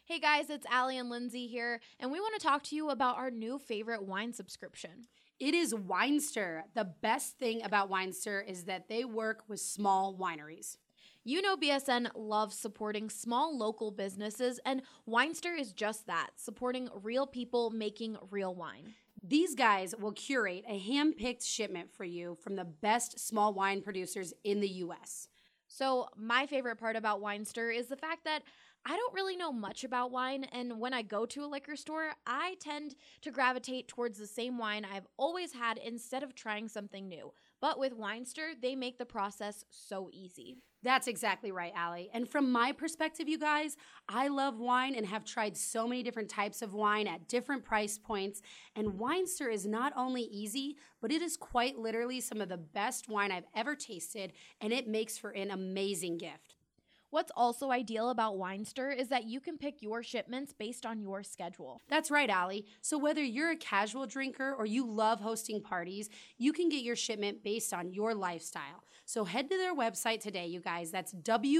Hey guys, it's Allie and Lindsay here, and we want to talk to you about our new favorite wine subscription. It is Winestyr. The best thing about Winestyr is that they work with small wineries. You know BSN loves supporting small local businesses, and Winestyr is just that, supporting real people making real wine. These guys will curate a hand-picked shipment for you from the best small wine producers in the U.S. So my favorite part about Winestyr is the fact that I don't really know much about wine, and when I go to a liquor store, I tend to gravitate towards the same wine I've always had instead of trying something new. But with Winestyr, they make the process so easy. That's exactly right, Allie. And from my perspective, you guys, I love wine and have tried so many different types of wine at different price points. And Winestyr is not only easy, but it is quite literally some of the best wine I've ever tasted, and it makes for an amazing gift. What's also ideal about Winestyr is that you can pick your shipments based on your schedule. That's right, Allie. So whether you're a casual drinker or you love hosting parties, you can get your shipment based on your lifestyle. So head to their website today, you guys. That's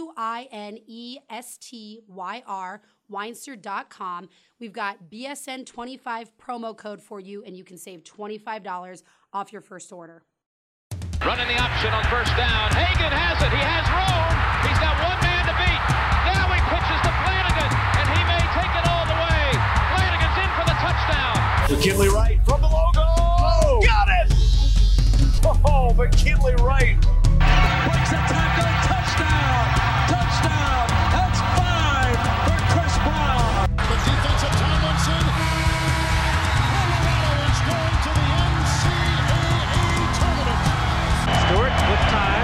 WINESTYR, Winestyr.com. We've got BSN25 promo code for you, and you can save $25 off your first order. Running the option on first down. Hagan has it. He has room. He's got one man to beat. Now he pitches to Flanagan, and he may take it all the way. Flanagan's in for the touchdown. McKinley Wright from the logo. Oh, got it! Oh, McKinley Wright. Breaks a tackle. Touchdown. Touchdown. That's 5 for Chris Brown. The defensive Tomlinson. Colorado is going to the NCAA tournament. Stewart with time.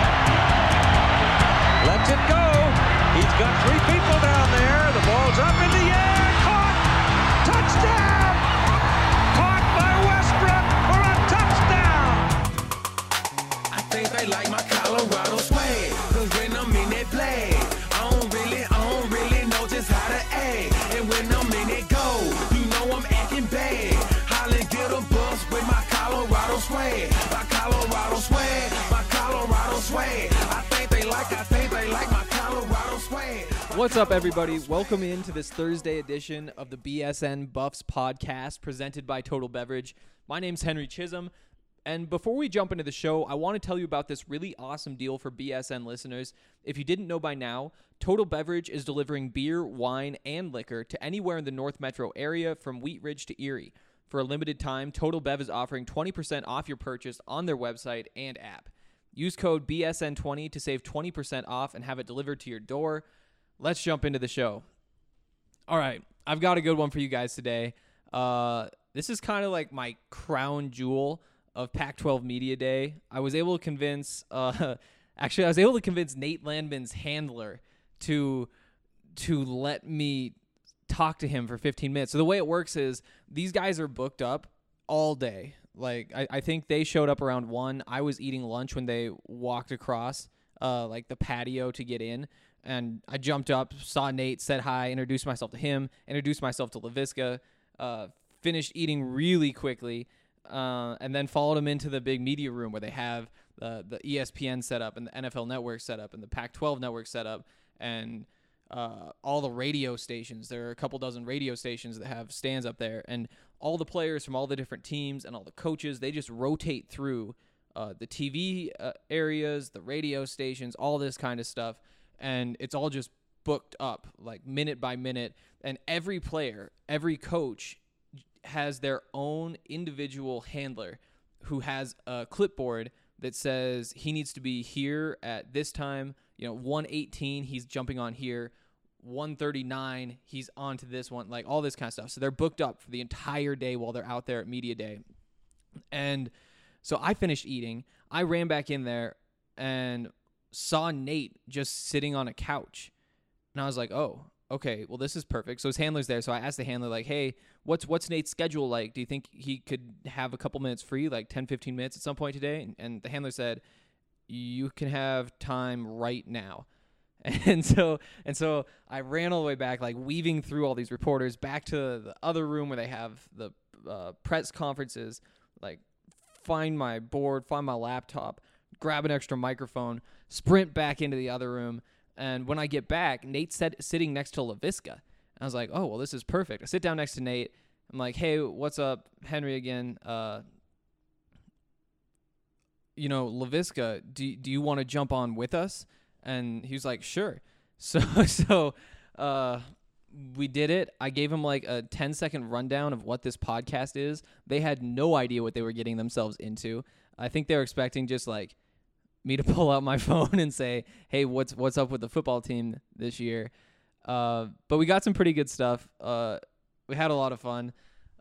Lets it go. He's got 3 people down there. The ball's up in the air. Caught. Touchdown. Caught by Westbrook for a touchdown. I think they like my Colorado swag. Cause when I'm in that play, I don't really know just how to act. And when I'm in it go, you know I'm acting bad. Holly get a bus with my Colorado swag. My Colorado swag. My Colorado swag. I think they like my Colorado swag. What's up, everybody? Welcome into this Thursday edition of the BSN Buffs podcast presented by Total Beverage. My name's Henry Chisholm, and before we jump into the show, I want to tell you about this really awesome deal for BSN listeners. If you didn't know by now, Total Beverage is delivering beer, wine, and liquor to anywhere in the North Metro area from Wheat Ridge to Erie. For a limited time, Total Bev is offering 20% off your purchase on their website and app. Use code BSN20 to save 20% off and have it delivered to your door. Let's jump into the show. All right, I've got a good one for you guys today. This is kind of like my crown jewel of Pac-12 Media Day. I was able to convince Nate Landman's handler to let me talk to him for 15 minutes. So the way it works is these guys are booked up all day. Like, I think they showed up around 1. I was eating lunch when they walked across like the patio to get in. And I jumped up, saw Nate, said hi, introduced myself to him, introduced myself to LaVisca, finished eating really quickly, and then followed him into the big media room where they have the ESPN set up and the NFL Network set up and the Pac-12 Network set up and all the radio stations. There are a couple dozen radio stations that have stands up there, and all the players from all the different teams and all the coaches, they just rotate through the TV areas, the radio stations, all this kind of stuff. And it's all just booked up, like minute by minute. And every player, every coach has their own individual handler who has a clipboard that says he needs to be here at this time. 1:18, he's jumping on here. 1:39, he's on to this one, like all this kind of stuff. So they're booked up for the entire day while they're out there at Media Day. And so I finished eating. I ran back in there and saw Nate just sitting on a couch. And I was like, oh, okay, well, this is perfect. So his handler's there. So I asked the handler, like, hey, what's Nate's schedule like? Do you think he could have a couple minutes free, like 10, 15 minutes at some point today? And the handler said, you can have time right now. And so I ran all the way back, like weaving through all these reporters back to the other room where they have the press conferences, like find my board, find my laptop, grab an extra microphone, sprint back into the other room. And when I get back, Nate's sitting next to LaVisca. I was like, oh, well, this is perfect. I sit down next to Nate. I'm like, hey, what's up? Henry again. Laviska, do you want to jump on with us? And he was like, sure. So we did it. I gave him like a 10-second rundown of what this podcast is. They had no idea what they were getting themselves into. I think they were expecting just like me to pull out my phone and say, hey, what's up with the football team this year? But we got some pretty good stuff. We had a lot of fun.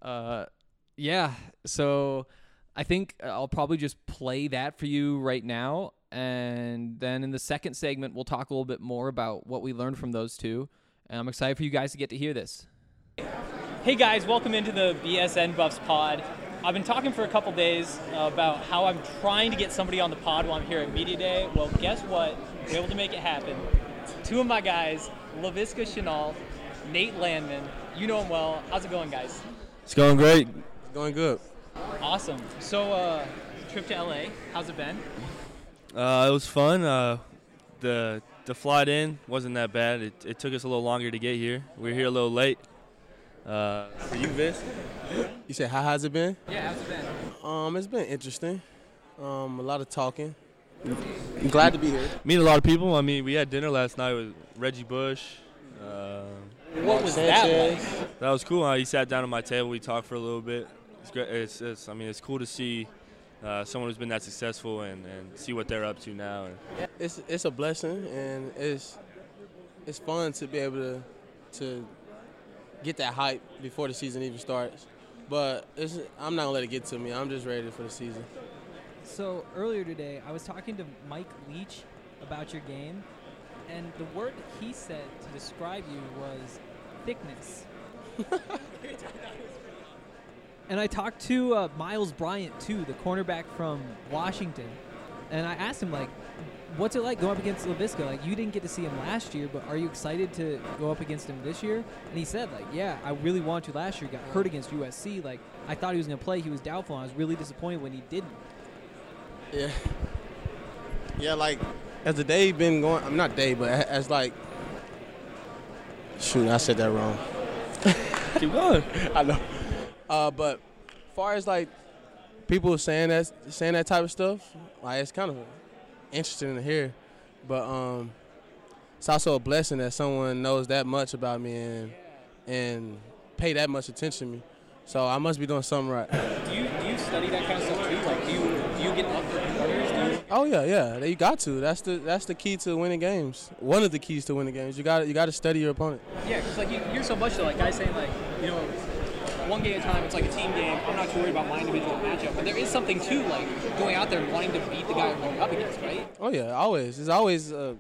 So I think I'll probably just play that for you right now. And then in the second segment, we'll talk a little bit more about what we learned from those two. And I'm excited for you guys to get to hear this. Hey guys, welcome into the BSN Buffs pod. I've been talking for a couple days about how I'm trying to get somebody on the pod while I'm here at Media Day. Well, guess what? We're able to make it happen. Two of my guys, Laviska Shenault, Nate Landman. You know them well. How's it going, guys? It's going great. It's going good. Awesome. So, trip to LA, how's it been? It was fun. The flight in wasn't that bad. It took us a little longer to get here. We were here a little late. For you, Vince? You said, how has it been? Yeah, how's it been? It's been interesting. A lot of talking. I'm glad to be here. Meet a lot of people. I mean, we had dinner last night with Reggie Bush. What was that like? That was cool. He sat down at my table. We talked for a little bit. It's great. It's cool to see someone who's been that successful and see what they're up to now. It's a blessing, and it's fun to be able to get that hype before the season even starts. But I'm not going to let it get to me. I'm just ready for the season. So earlier today, I was talking to Mike Leach about your game, and the word that he said to describe you was thickness. And I talked to Miles Bryant, too, the cornerback from Washington, and I asked him, like, what's it like going up against Laviska? Like, you didn't get to see him last year, but are you excited to go up against him this year? And he said, like, yeah, I really wanted to last year. Got hurt against USC. Like, I thought he was going to play. He was doubtful, and I was really disappointed when he didn't. Yeah. Yeah, like, as the day been going, I'm not day, but as like, shoot, I said that wrong. Keep going. I know. But as far as like people saying that type of stuff, like it's kind of interesting to hear. But it's also a blessing that someone knows that much about me and pay that much attention to me. So I must be doing something right. Do you study that kind of stuff too? Like, do you get up for corners? Oh yeah. You got to. That's the key to winning games. One of the keys to winning games. You got to study your opponent. Yeah, because like you hear so much though, like guys saying like, you know, one game at a time. It's like a team game. I'm not too worried about my individual matchup, but there is something too, like going out there and wanting to beat the guy you're going up against, right? Oh yeah, always. It's always a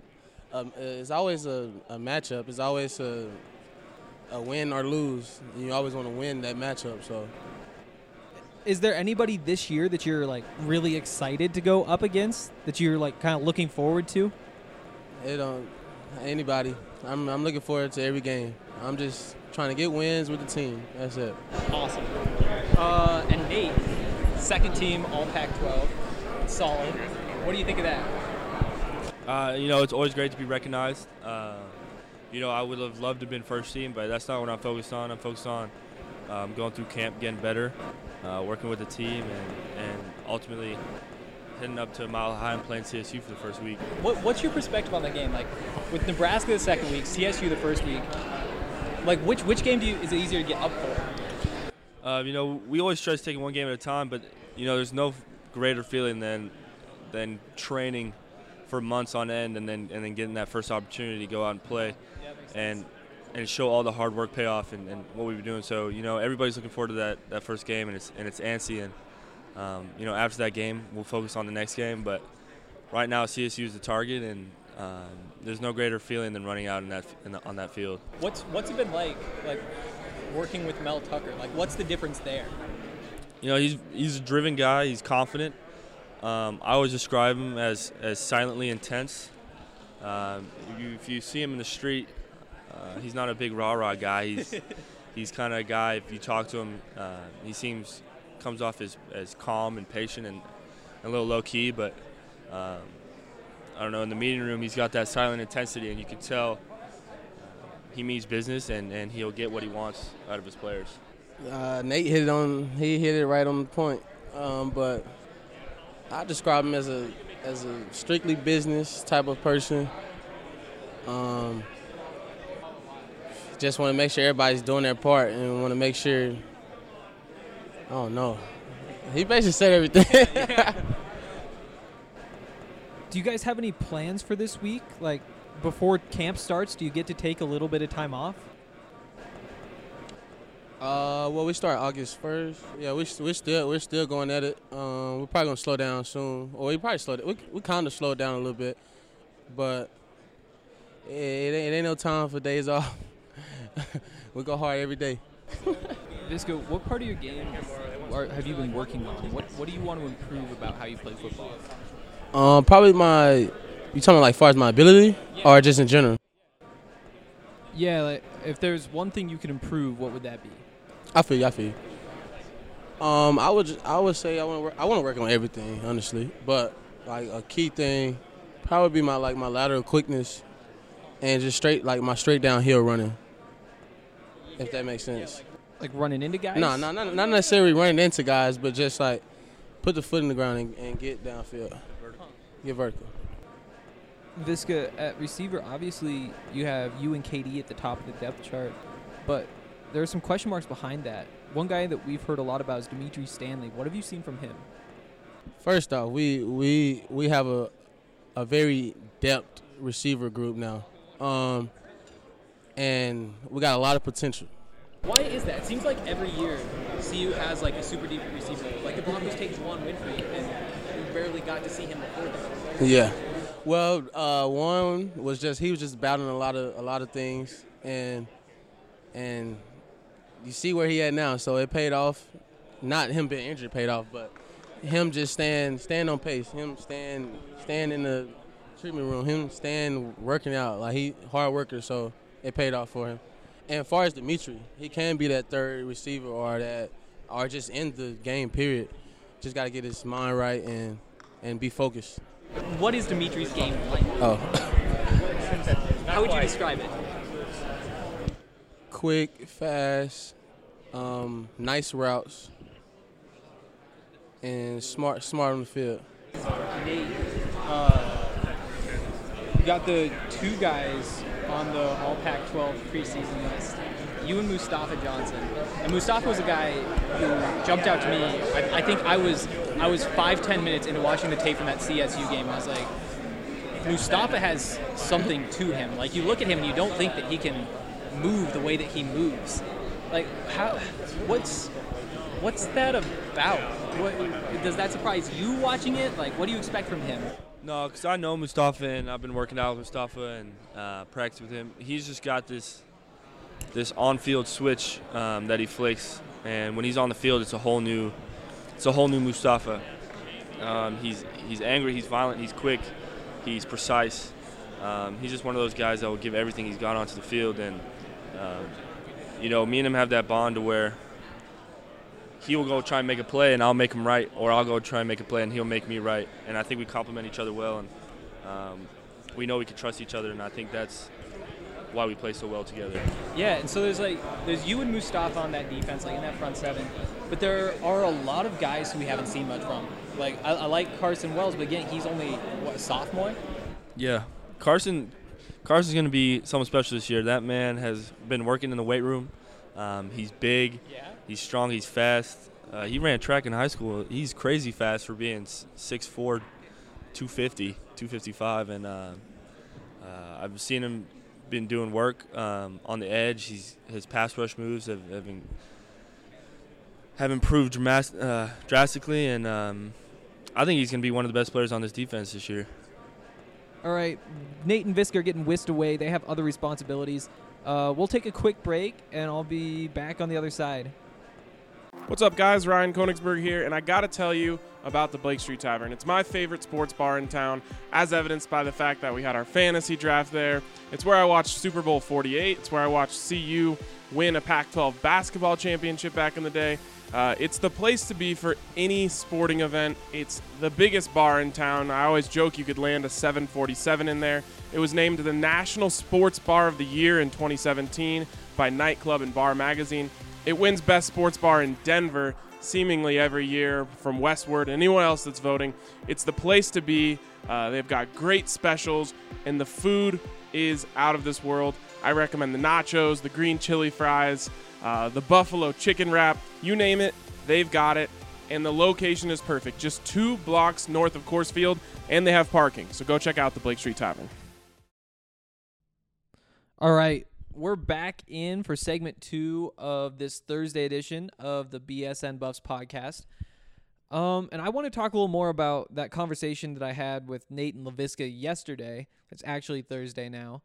matchup. It's always a win or lose. You always want to win that matchup. So, is there anybody this year that you're like really excited to go up against? That you're like kind of looking forward to? Anybody. I'm looking forward to every game. I'm just trying to get wins with the team. That's it. Awesome. And Nate, second team All Pac-12, solid. What do you think of that? It's always great to be recognized. I would have loved to have been first team, but that's not what I'm focused on. I'm focused on going through camp, getting better, working with the team, and ultimately heading up to Mile High and playing CSU for the first week. What's your perspective on the game? Like, with Nebraska the second week, CSU the first week, like which game is it easier to get up for? We always try to take it one game at a time, but there's no greater feeling than training for months on end and then getting that first opportunity to go out and play and show all the hard work pay off and what we've been doing. So everybody's looking forward to that first game, and it's antsy, and after that game we'll focus on the next game. But right now CSU is the target, and there's no greater feeling than running out on that field. What's it been like working with Mel Tucker? Like, what's the difference there? He's a driven guy. He's confident. I always describe him as silently intense. If you see him in the street, he's not a big rah-rah guy. He's kind of a guy, if you talk to him, he comes off as calm and patient and a little low-key, but I don't know, in the meeting room he's got that silent intensity, and you can tell he means business and he'll get what he wants out of his players. Nate hit it right on the point. But I describe him as a strictly business type of person. Just want to make sure everybody's doing their part and want to make sure. I don't know. He basically said everything. Do you guys have any plans for this week? Like, before camp starts, do you get to take a little bit of time off? Well, we start August 1st. Yeah, we're still going at it. We're probably gonna slow down soon, or we probably slowed it. We kind of slowed down a little bit, but it ain't no time for days off. We go hard every day. Visco, what part of your game have you been working on? What do you want to improve about how you play football? Probably you talking like far as my ability, or just in general? Yeah, like if there's one thing you could improve, what would that be? I feel you. I would say I want to work on everything, honestly. But like a key thing, probably be my lateral quickness, and just my straight downhill running. If that makes sense. Like running into guys? No, not necessarily running into guys, but just like put the foot in the ground and get downfield. Get vertical. Visca, at receiver, obviously you have you and KD at the top of the depth chart, but there are some question marks behind that. One guy that we've heard a lot about is Dimitri Stanley. What have you seen from him? First off, we have a very depth receiver group now, and we got a lot of potential. Why is that? It seems like every year CU has like a super deep receiver. Like the Broncos take Juwan Winfrey, and we barely got to see him before that. Yeah. Well, one was he was just battling a lot of things, and you see where he at now. So it paid off. Not him being injured paid off, but him just stand on pace. Him stand in the treatment room. Him working out. Like he hard worker. So it paid off for him. And as far as Dimitri, he can be that third receiver or just in the game. Period. Just got to get his mind right and be focused. What is Dimitri's game like? Oh. How would you describe it? Quick, fast, nice routes, and smart on the field. Nate, you got the two guys on the All Pac-12 preseason list. You and Mustafa Johnson. And Mustafa was a guy who jumped out to me. I think I was 5-10 minutes into watching the tape from that CSU game. I was like, Mustafa has something to him. Like you look at him and you don't think that he can move the way that he moves. Like what's that about? Does that surprise you watching it? Like what do you expect from him? No, because I know Mustafa and I've been working out with Mustafa and practice with him. He's just got this on-field switch that he flicks, and when he's on the field, it's a whole new Mustafa. He's angry, he's violent, he's quick, he's precise. He's just one of those guys that will give everything he's got onto the field, and me and him have that bond to where he will go try and make a play and I'll make him right, or I'll go try and make a play and he'll make me right. And I think we complement each other well, and we know we can trust each other, and I think that's why we play so well together. Yeah, and so there's you and Mustafa on that defense, like in that front seven, but there are a lot of guys who we haven't seen much from. Like I like Carson Wells, but again, he's only a sophomore. Yeah, Carson's going to be something special this year. That man has been working in the weight room. He's big, he's strong, he's fast. He ran track in high school. He's crazy fast for being 6'4", 250, 255, and I've seen him been doing work on the edge. His pass rush moves have improved drastically, and I think he's going to be one of the best players on this defense this year. All right, Nate and Visca are getting whisked away. They have other responsibilities. We'll take a quick break, and I'll be back on the other side. What's up, guys? Ryan Koenigsberg here, and I got to tell you about the Blake Street Tavern. It's my favorite sports bar in town, as evidenced by the fact that we had our fantasy draft there. It's where I watched Super Bowl 48. It's where I watched CU win a Pac-12 basketball championship back in the day. It's the place to be for any sporting event. It's the biggest bar in town. I always joke you could land a 747 in there. It was named the National Sports Bar of the Year in 2017 by Nightclub and Bar Magazine. It wins Best Sports Bar in Denver seemingly every year from Westward. Anyone else that's voting, it's the place to be. They've got great specials, and the food is out of this world. I recommend the nachos, the green chili fries, the buffalo chicken wrap, you name it, they've got it. And the location is perfect, just 2 blocks north of Coors Field, and they have parking. So go check out the Blake Street Tavern. All right, we're back in for segment 2 of this Thursday edition of the BSN Buffs podcast. And I want to talk a little more about that conversation that I had with Nate and LaVisca yesterday. It's actually Thursday now.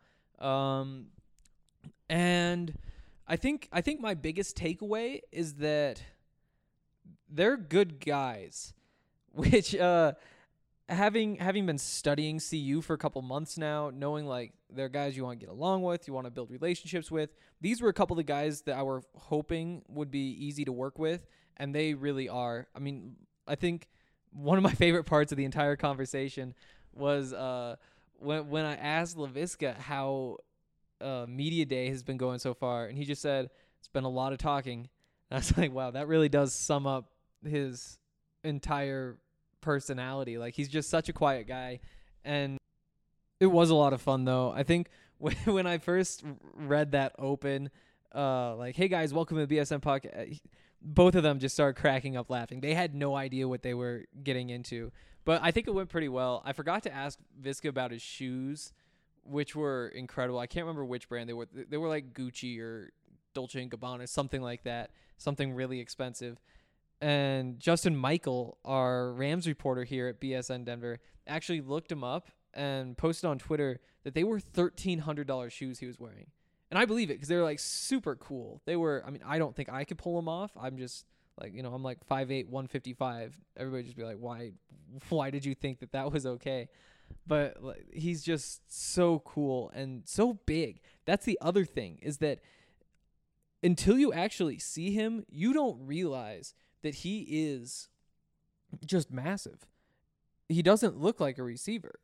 And I think my biggest takeaway is that they're good guys, which having been studying CU for a couple months now, knowing like they're guys you want to get along with, you want to build relationships with. These were a couple of the guys that I were hoping would be easy to work with, and they really are. I mean, I think one of my favorite parts of the entire conversation was when I asked LaVisca how Media Day has been going so far, and he just said, it's been a lot of talking. And I was like, wow, that really does sum up his entire personality. Like, he's just such a quiet guy, and it was a lot of fun, though. I think when I first read that open, like, hey, guys, welcome to the BSN podcast, both of them just started cracking up laughing. They had no idea what they were getting into, but I think it went pretty well. I forgot to ask Visca about his shoes, which were incredible. I can't remember which brand they were. They were like Gucci or Dolce & Gabbana, something like that, something really expensive. And Justin Michael, our Rams reporter here at BSN Denver, actually looked him up and posted on Twitter that they were $1,300 shoes he was wearing. And I believe it because they were like super cool. They were, I mean, I don't think I could pull them off. I'm just like, I'm like 5'8", 155. Everybody just be like, why did you think that was okay? But like, he's just so cool and so big. That's the other thing, is that until you actually see him, you don't realize that he is just massive. He doesn't look like a receiver.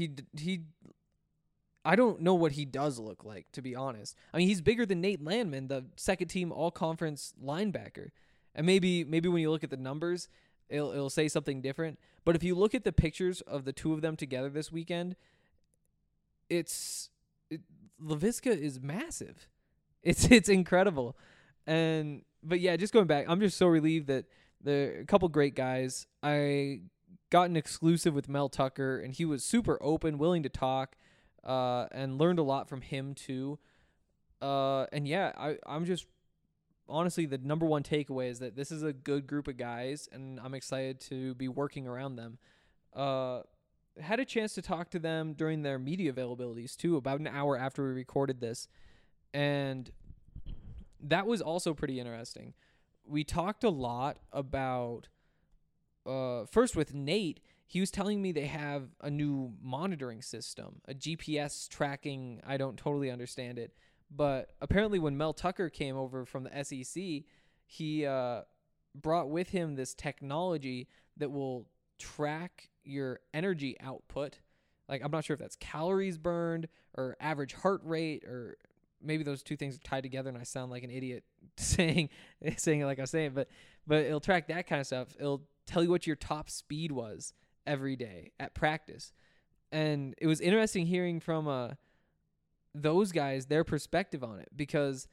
I don't know what he does look like, to be honest. I mean, he's bigger than Nate Landman, the second-team all-conference linebacker. And maybe when you look at the numbers, it'll say something different. But if you look at the pictures of the two of them together this weekend, LaVisca is massive. It's incredible. But yeah, just going back, I'm just so relieved that there are a couple great guys. I got an exclusive with Mel Tucker, and he was super open, willing to talk, and learned a lot from him too. And yeah, I'm just honestly, the number one takeaway is that this is a good group of guys, and I'm excited to be working around them. Had a chance to talk to them during their media availabilities too, about an hour after we recorded this, and that was also pretty interesting. We talked a lot about, first with Nate, he was telling me they have a new monitoring system, a GPS tracking. I don't totally understand it. But apparently when Mel Tucker came over from the SEC, he brought with him this technology that will track your energy output. Like, I'm not sure if that's calories burned or average heart rate, or maybe those two things are tied together and I sound like an idiot saying it like I was saying, but it'll track that kind of stuff. It'll tell you what your top speed was every day at practice. And it was interesting hearing from those guys, their perspective on it, because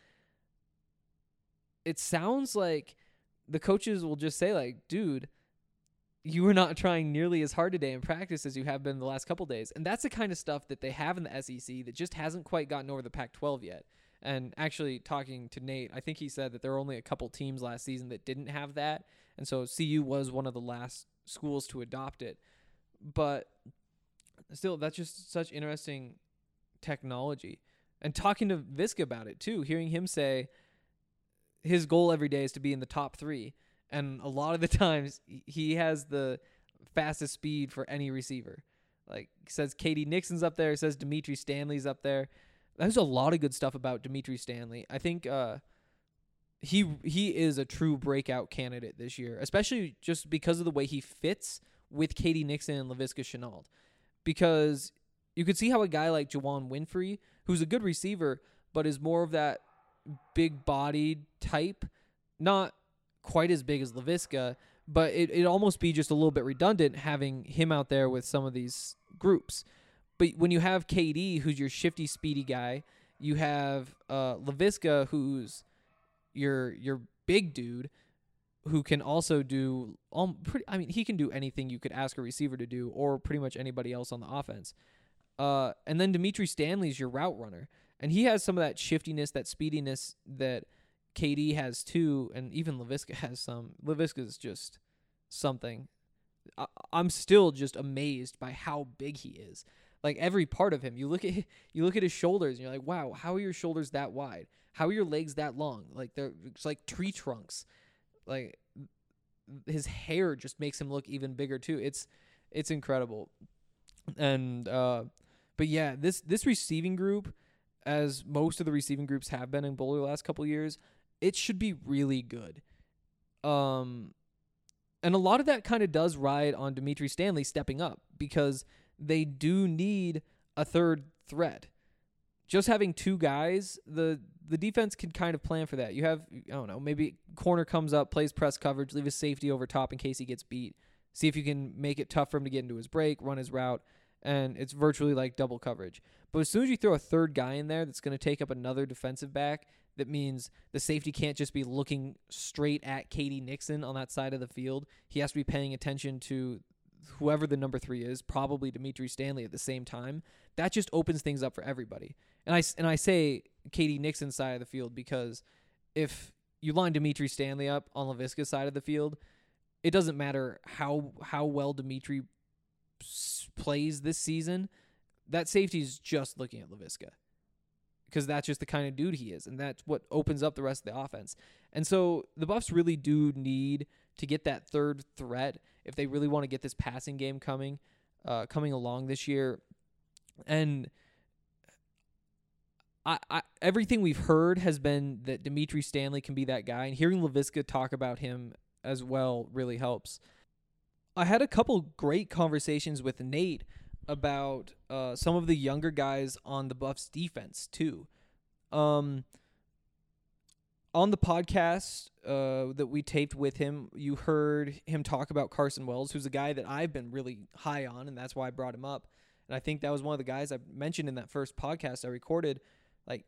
it sounds like the coaches will just say like, dude, you were not trying nearly as hard today in practice as you have been the last couple days. And that's the kind of stuff that they have in the SEC that just hasn't quite gotten over the Pac-12 yet. And actually, talking to Nate, I think he said that there were only a couple teams last season that didn't have that. And so CU was one of the last schools to adopt it. But still, that's just such interesting technology. And talking to Visca about it too, hearing him say his goal every day is to be in the top 3. And a lot of the times he has the fastest speed for any receiver. Like, he says Katie Nixon's up there. He says Dimitri Stanley's up there. There's a lot of good stuff about Dimitri Stanley. I think he is a true breakout candidate this year, especially just because of the way he fits with Katie Nixon and Laviska Shenault. Because you could see how a guy like Juwan Winfrey, who's a good receiver, but is more of that big-bodied type, not quite as big as Laviska, but it'd almost be just a little bit redundant having him out there with some of these groups. But when you have KD, who's your shifty, speedy guy, you have Laviska, who's your big dude, who can also do he can do anything you could ask a receiver to do, or pretty much anybody else on the offense. And then Dimitri Stanley's your route runner, and he has some of that shiftiness, that speediness that KD has too, and even Laviska has some. Laviska's just something. I'm still just amazed by how big he is. Like every part of him, you look at his shoulders, and you're like, wow, how are your shoulders that wide? How are your legs that long? Like it's like tree trunks. Like his hair just makes him look even bigger too. It's incredible. And but yeah, this receiving group, as most of the receiving groups have been in Boulder the last couple of years, it should be really good. And a lot of that kind of does ride on Dimitri Stanley stepping up, because they do need a third threat. Just having two guys, the defense can kind of plan for that. You have, I don't know, maybe corner comes up, plays press coverage, leave his safety over top in case he gets beat. See if you can make it tough for him to get into his break, run his route, and it's virtually like double coverage. But as soon as you throw a third guy in there that's going to take up another defensive back, that means the safety can't just be looking straight at Katie Nixon on that side of the field. He has to be paying attention to whoever the number 3 is, probably Dimitri Stanley at the same time. That just opens things up for everybody. And I say Katie Nixon's side of the field because if you line Dimitri Stanley up on Laviska's side of the field, it doesn't matter how well Dimitri plays this season. That safety's just looking at Laviska, because that's just the kind of dude he is, and that's what opens up the rest of the offense. And so the Buffs really do need to get that third threat if they really want to get this passing game coming along this year. And I everything we've heard has been that Dimitri Stanley can be that guy, and hearing Laviska talk about him as well really helps. I had a couple great conversations with Nate about some of the younger guys on the Buffs defense too. On the podcast that we taped with him, you heard him talk about Carson Wells, who's a guy that I've been really high on, and that's why I brought him up. And I think that was one of the guys I mentioned in that first podcast I recorded. Like,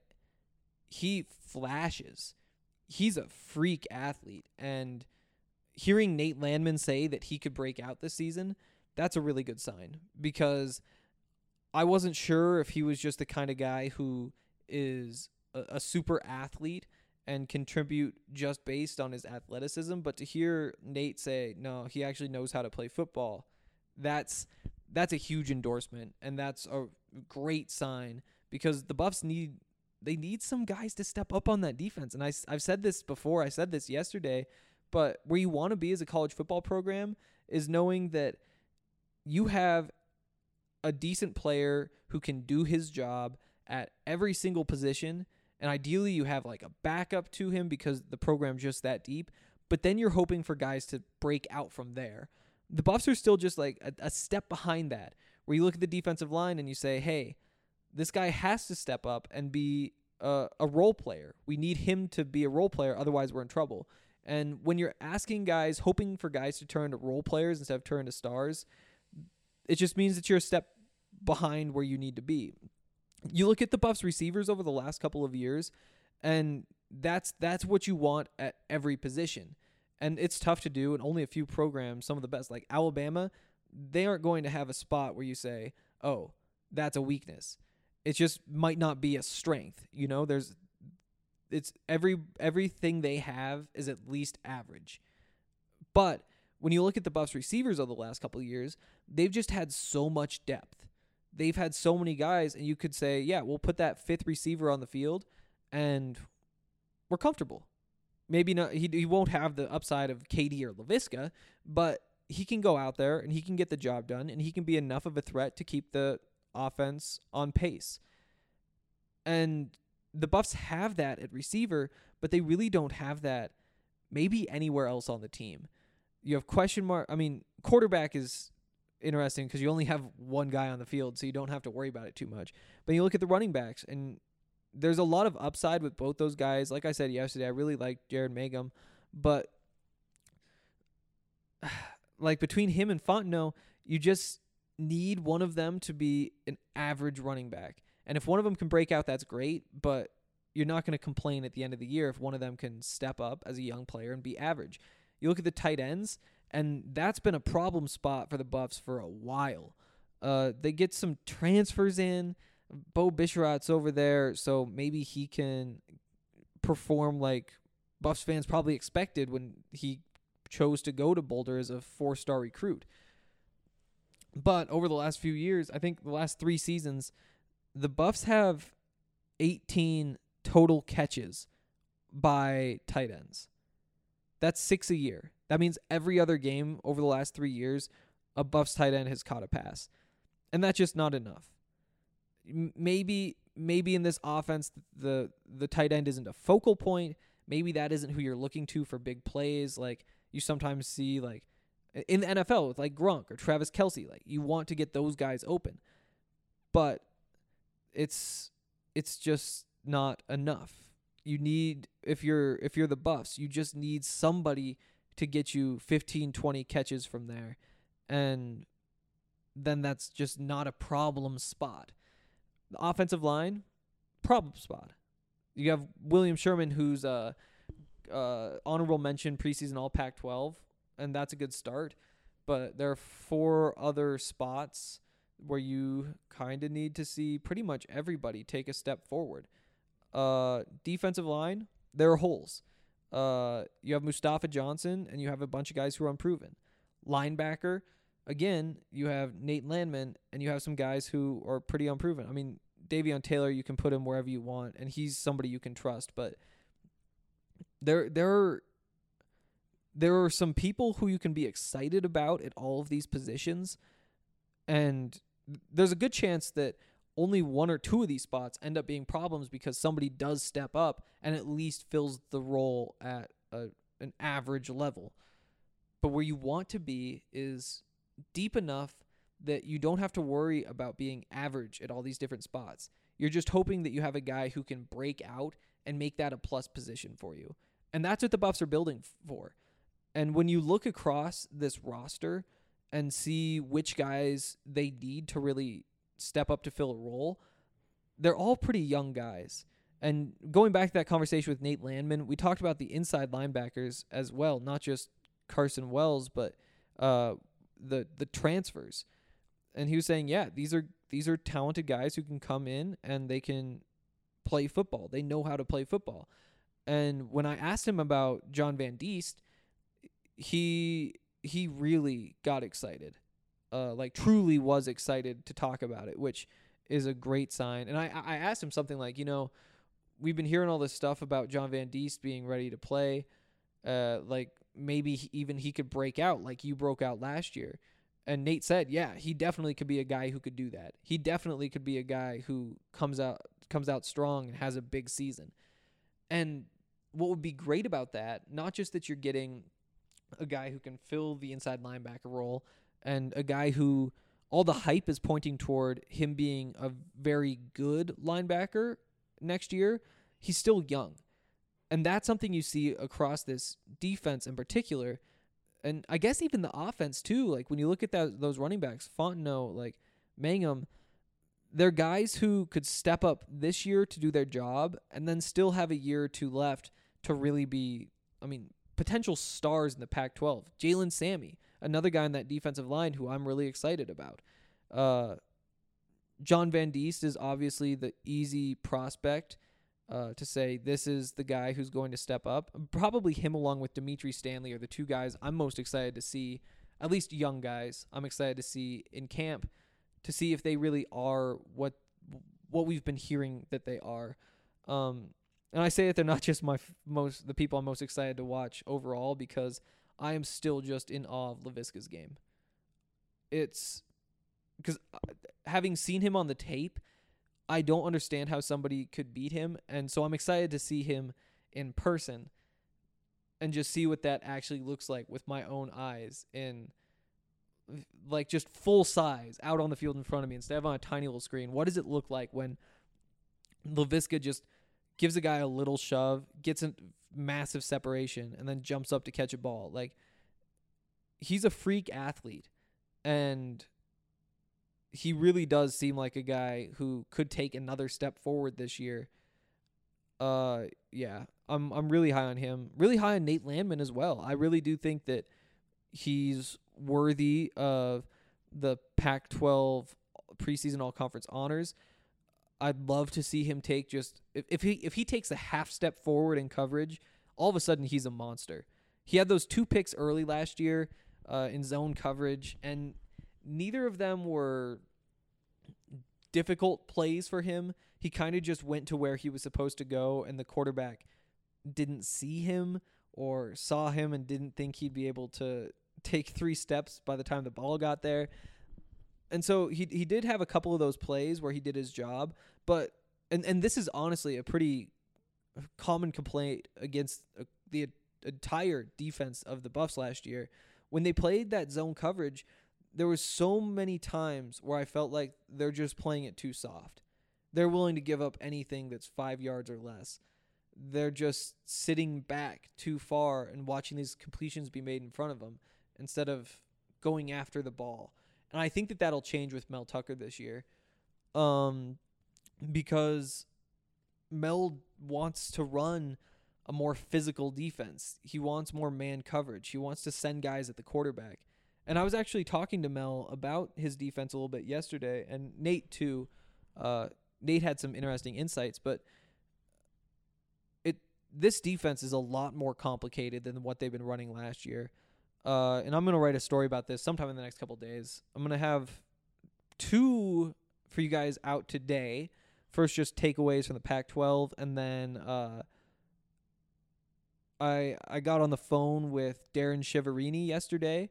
he flashes. He's a freak athlete. And hearing Nate Landman say that he could break out this season, that's a really good sign, because I wasn't sure if he was just the kind of guy who is a super athlete and contribute just based on his athleticism. But to hear Nate say, no, he actually knows how to play football, that's a huge endorsement, and that's a great sign, because the Buffs need some guys to step up on that defense. And I've said this before, I said this yesterday, but where you want to be as a college football program is knowing that you have a decent player who can do his job at every single position, and ideally you have like a backup to him because the program's just that deep, but then you're hoping for guys to break out from there. The Buffs are still just like a step behind that, where you look at the defensive line and you say, hey, this guy has to step up and be a role player. We need him to be a role player, otherwise we're in trouble. And when you're asking guys, hoping for guys to turn to role players instead of turn to stars, it just means that you're a step behind where you need to be. You look at the Buffs receivers over the last couple of years, and that's what you want at every position. And it's tough to do, and only a few programs, some of the best, like Alabama, they aren't going to have a spot where you say, oh, that's a weakness. It just might not be a strength. You know, it's everything they have is at least average. But when you look at the Buffs receivers over the last couple of years, they've just had so much depth. They've had so many guys, and you could say, yeah, we'll put that fifth receiver on the field, and we're comfortable. Maybe not. He won't have the upside of KD or Laviska, but he can go out there and he can get the job done, and he can be enough of a threat to keep the offense on pace. And the Buffs have that at receiver, but they really don't have that maybe anywhere else on the team. You have question mark. I mean, quarterback is interesting because you only have one guy on the field, so you don't have to worry about it too much. But you look at the running backs, and there's a lot of upside with both those guys. Like I said yesterday, I really like Jared Mangum, but like between him and Fontenot, you just need one of them to be an average running back. And if one of them can break out, that's great, but you're not going to complain at the end of the year if one of them can step up as a young player and be average. You look at the tight ends, and that's been a problem spot for the Buffs for a while. They get some transfers in. Bo Bisharat's over there, so maybe he can perform like Buffs fans probably expected when he chose to go to Boulder as a 4-star recruit. But over the last few years, I think the last 3 seasons, the Buffs have 18 total catches by tight ends. That's 6 a year. That means every other game over the last 3 years, a Buffs tight end has caught a pass. And that's just not enough. Maybe in this offense, the tight end isn't a focal point. Maybe that isn't who you're looking to for big plays. Like you sometimes see like in the NFL with like Gronk or Travis Kelce. Like you want to get those guys open. But it's just not enough. You need, if you're the Buffs, you just need somebody to get you 15, 20 catches from there. And then that's just not a problem spot. The offensive line, problem spot. You have William Sherman, who's honorable mention preseason All Pac-12, and that's a good start. But there are 4 other spots where you kind of need to see pretty much everybody take a step forward. Defensive line, there are holes. You have Mustafa Johnson, and you have a bunch of guys who are unproven. Linebacker, again, you have Nate Landman, and you have some guys who are pretty unproven. I mean, Davion Taylor, you can put him wherever you want, and he's somebody you can trust. But there are some people who you can be excited about at all of these positions, and there's a good chance that only 1 or 2 of these spots end up being problems because somebody does step up and at least fills the role at an average level. But where you want to be is deep enough that you don't have to worry about being average at all these different spots. You're just hoping that you have a guy who can break out and make that a plus position for you. And that's what the Buffs are building for. And when you look across this roster and see which guys they need to really step up to fill a role, they're all pretty young guys. And going back to that conversation with Nate Landman, we talked about the inside linebackers as well, not just Carson Wells, but the transfers. And he was saying, yeah, these are talented guys who can come in and they can play football. They know how to play football. And when I asked him about John Van Diest, he really got excited. Like truly was excited to talk about it, which is a great sign. And I asked him something like, we've been hearing all this stuff about John Van Diest being ready to play. Like maybe even he could break out like you broke out last year. And Nate said, yeah, he definitely could be a guy who could do that. He definitely could be a guy who comes out strong and has a big season. And what would be great about that, not just that you're getting a guy who can fill the inside linebacker role, and a guy who all the hype is pointing toward him being a very good linebacker next year, he's still young. And that's something you see across this defense in particular. And I guess even the offense too. Like when you look at those running backs, Fontenot, like Mangum, they're guys who could step up this year to do their job and then still have a year or 2 left to really be, potential stars in the Pac-12. Jalen Sammy, another guy on that defensive line who I'm really excited about. John Van Diest is obviously the easy prospect to say this is the guy who's going to step up. Probably him along with Dimitri Stanley are the 2 guys I'm most excited to see, at least young guys I'm excited to see in camp to see if they really are what we've been hearing that they are. And I say that they're not just the people I'm most excited to watch overall because I am still just in awe of Laviska's game. It's because having seen him on the tape, I don't understand how somebody could beat him, and so I'm excited to see him in person and just see what that actually looks like with my own eyes in like just full size out on the field in front of me instead of on a tiny little screen. What does it look like when Laviska just gives a guy a little shove, gets a massive separation, and then jumps up to catch a ball? Like, he's a freak athlete, and he really does seem like a guy who could take another step forward this year. Yeah, I'm really high on him. Really high on Nate Landman as well. I really do think that he's worthy of the Pac-12 preseason all-conference honors. I'd love to see him take just if he takes a half step forward in coverage, all of a sudden he's a monster. He had those 2 picks early last year in zone coverage, and neither of them were difficult plays for him. He kind of just went to where he was supposed to go, and the quarterback didn't see him or saw him and didn't think he'd be able to take 3 steps by the time the ball got there. And so he did have a couple of those plays where he did his job, but and this is honestly a pretty common complaint against the entire defense of the Buffs last year. When they played that zone coverage, there was so many times where I felt like they're just playing it too soft. They're willing to give up anything that's 5 yards or less. They're just sitting back too far and watching these completions be made in front of them instead of going after the ball. And I think that that'll change with Mel Tucker this year, because Mel wants to run a more physical defense. He wants more man coverage. He wants to send guys at the quarterback. And I was actually talking to Mel about his defense a little bit yesterday, and Nate too. Nate had some interesting insights, but this defense is a lot more complicated than what they've been running last year. And I'm going to write a story about this sometime in the next couple of days. I'm going to have 2 for you guys out today. First, just takeaways from the Pac-12, and then I got on the phone with Darren Shiverini yesterday,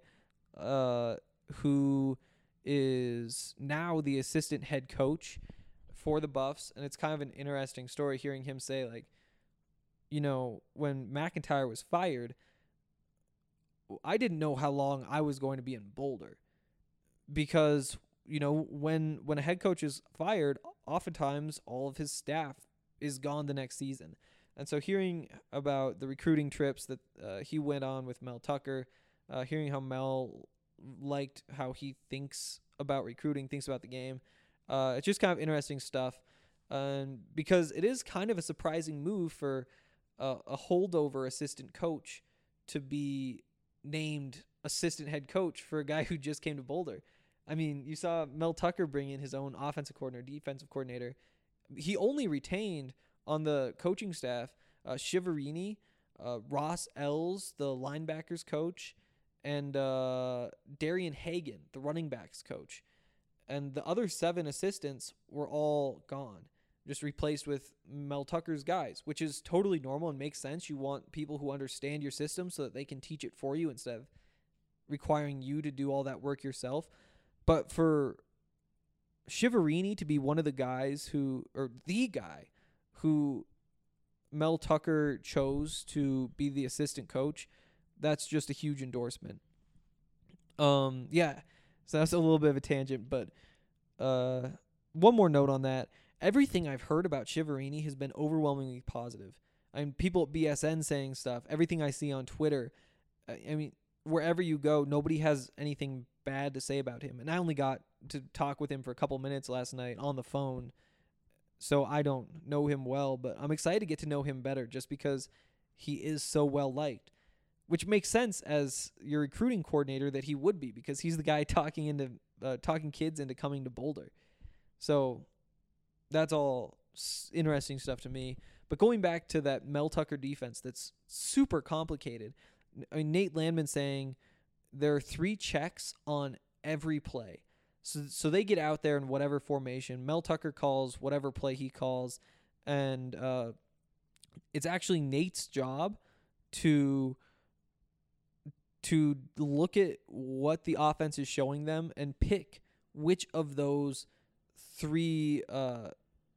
who is now the assistant head coach for the Buffs, and it's kind of an interesting story hearing him say, like, you know, when McIntyre was fired, I didn't know how long I was going to be in Boulder, because, you know, when a head coach is fired, oftentimes all of his staff is gone the next season. And so hearing about the recruiting trips that he went on with Mel Tucker, hearing how Mel liked how he thinks about recruiting, thinks about the game, it's just kind of interesting stuff. Because it is kind of a surprising move for a holdover assistant coach to be named assistant head coach for a guy who just came to Boulder. I mean, you saw Mel Tucker bring in his own offensive coordinator, defensive coordinator. He only retained on the coaching staff Shiverini, Ross Ells, the linebackers coach, and Darian Hagan, the running backs coach. And the other 7 assistants were all gone, just replaced with Mel Tucker's guys, which is totally normal and makes sense. You want people who understand your system so that they can teach it for you instead of requiring you to do all that work yourself. But for Shiverini to be one of the guys the guy who Mel Tucker chose to be the assistant coach, that's just a huge endorsement. Yeah, so that's a little bit of a tangent, but one more note on that. Everything I've heard about Shiverini has been overwhelmingly positive. I mean, people at BSN saying stuff, everything I see on Twitter. I mean, wherever you go, nobody has anything bad to say about him. And I only got to talk with him for a couple minutes last night on the phone, so I don't know him well, but I'm excited to get to know him better just because he is so well liked, which makes sense as your recruiting coordinator that he would be, because he's the guy talking kids into coming to Boulder. So that's all interesting stuff to me. But going back to that Mel Tucker defense that's super complicated, I mean, Nate Landman saying there are 3 checks on every play. So they get out there in whatever formation. Mel Tucker calls whatever play he calls, and it's actually Nate's job to look at what the offense is showing them and pick which of those 3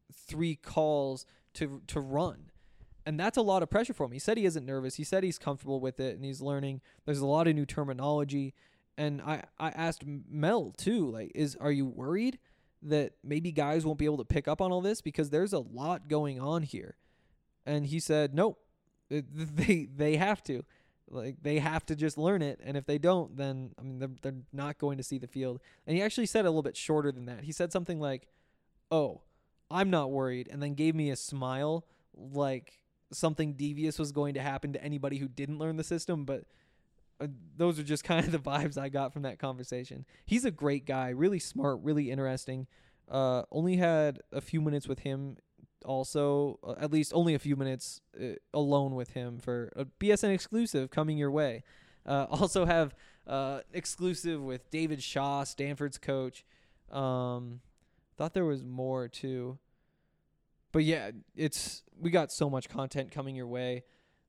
3 calls to run. And that's a lot of pressure for him. He said he isn't nervous. He said he's comfortable with it and he's learning. There's a lot of new terminology. And I asked Mel too, like, are you worried that maybe guys won't be able to pick up on all this? Because there's a lot going on here. And he said, nope, they have to. Like, they have to just learn it. And if they don't, then, I mean, they're not going to see the field. And he actually said it a little bit shorter than that. He said something like, oh, I'm not worried. And then gave me a smile like something devious was going to happen to anybody who didn't learn the system. But those are just kind of the vibes I got from that conversation. He's a great guy, really smart, really interesting. Only had a few minutes with him also, at least only a few minutes alone with him for a BSN exclusive coming your way. Also have exclusive with David Shaw, Stanford's coach. Thought there was more too. But yeah, we got so much content coming your way.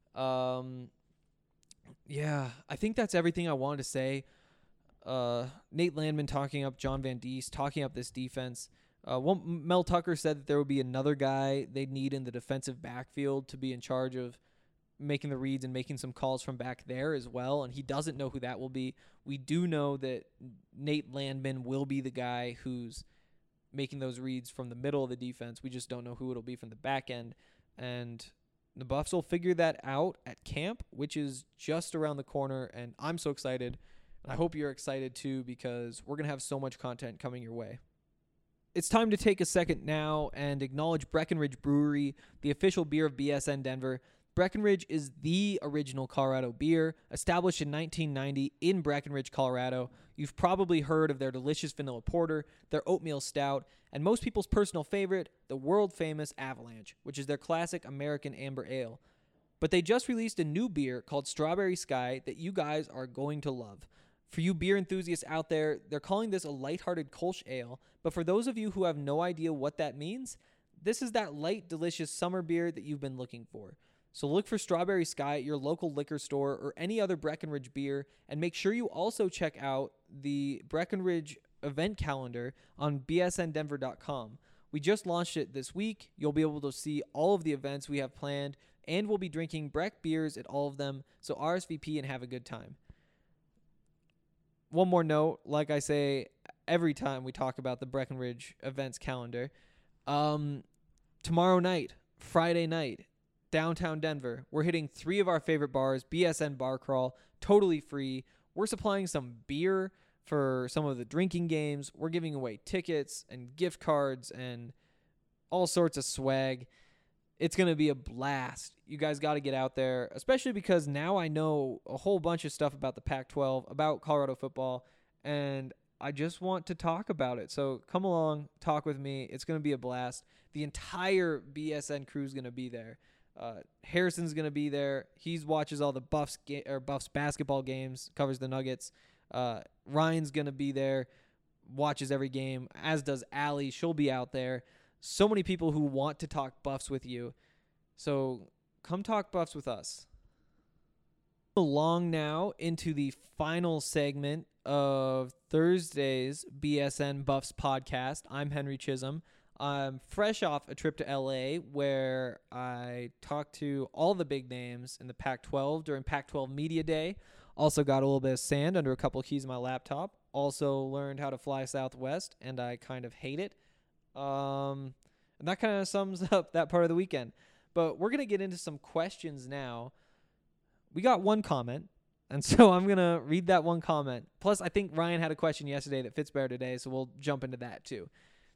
Yeah, I think that's everything I wanted to say. Nate Landman talking up John Van Diest, talking up this defense. Mel Tucker said that there would be another guy they'd need in the defensive backfield to be in charge of making the reads and making some calls from back there as well, and he doesn't know who that will be. We do know that Nate Landman will be the guy who's making those reads from the middle of the defense. We just don't know who it'll be from the back end, and the Buffs will figure that out at camp, which is just around the corner, and I'm so excited. And I hope you're excited too, because we're going to have so much content coming your way. It's time to take a second now and acknowledge Breckenridge Brewery, the official beer of BSN Denver. Breckenridge is the original Colorado beer, established in 1990 in Breckenridge, Colorado. You've probably heard of their delicious vanilla porter, their oatmeal stout, and most people's personal favorite, the world-famous Avalanche, which is their classic American amber ale. But they just released a new beer called Strawberry Sky that you guys are going to love. For you beer enthusiasts out there, they're calling this a lighthearted Kolsch ale, but for those of you who have no idea what that means, this is that light, delicious summer beer that you've been looking for. So look for Strawberry Sky at your local liquor store or any other Breckenridge beer, and make sure you also check out the Breckenridge event calendar on bsndenver.com. We just launched it this week. You'll be able to see all of the events we have planned, and we'll be drinking Breck beers at all of them, so RSVP and have a good time. One more note, like I say every time we talk about the Breckenridge events calendar, tomorrow night, Friday night, downtown Denver, we're hitting 3 of our favorite bars, BSN Bar Crawl, totally free. We're supplying some beer for some of the drinking games. We're giving away tickets and gift cards and all sorts of swag. It's going to be a blast. You guys got to get out there, especially because now I know a whole bunch of stuff about the Pac-12, about Colorado football, and I just want to talk about it. So come along, talk with me. It's going to be a blast. The entire BSN crew is going to be there. Harrison's going to be there. He watches all the Buffs basketball games, covers the Nuggets. Ryan's going to be there, watches every game, as does Allie. She'll be out there. So many people who want to talk Buffs with you. So come talk Buffs with us. Along now into the final segment of Thursday's BSN Buffs podcast. I'm Henry Chisholm. I'm fresh off a trip to LA where I talked to all the big names in the Pac-12 during Pac-12 Media Day. Also got a little bit of sand under a couple of keys of my laptop. Also learned how to fly Southwest, and I kind of hate it. And that kind of sums up that part of the weekend. But we're going to get into some questions now. We got one comment, and so I'm going to read that one comment. Plus, I think Ryan had a question yesterday that fits better today, so we'll jump into that too.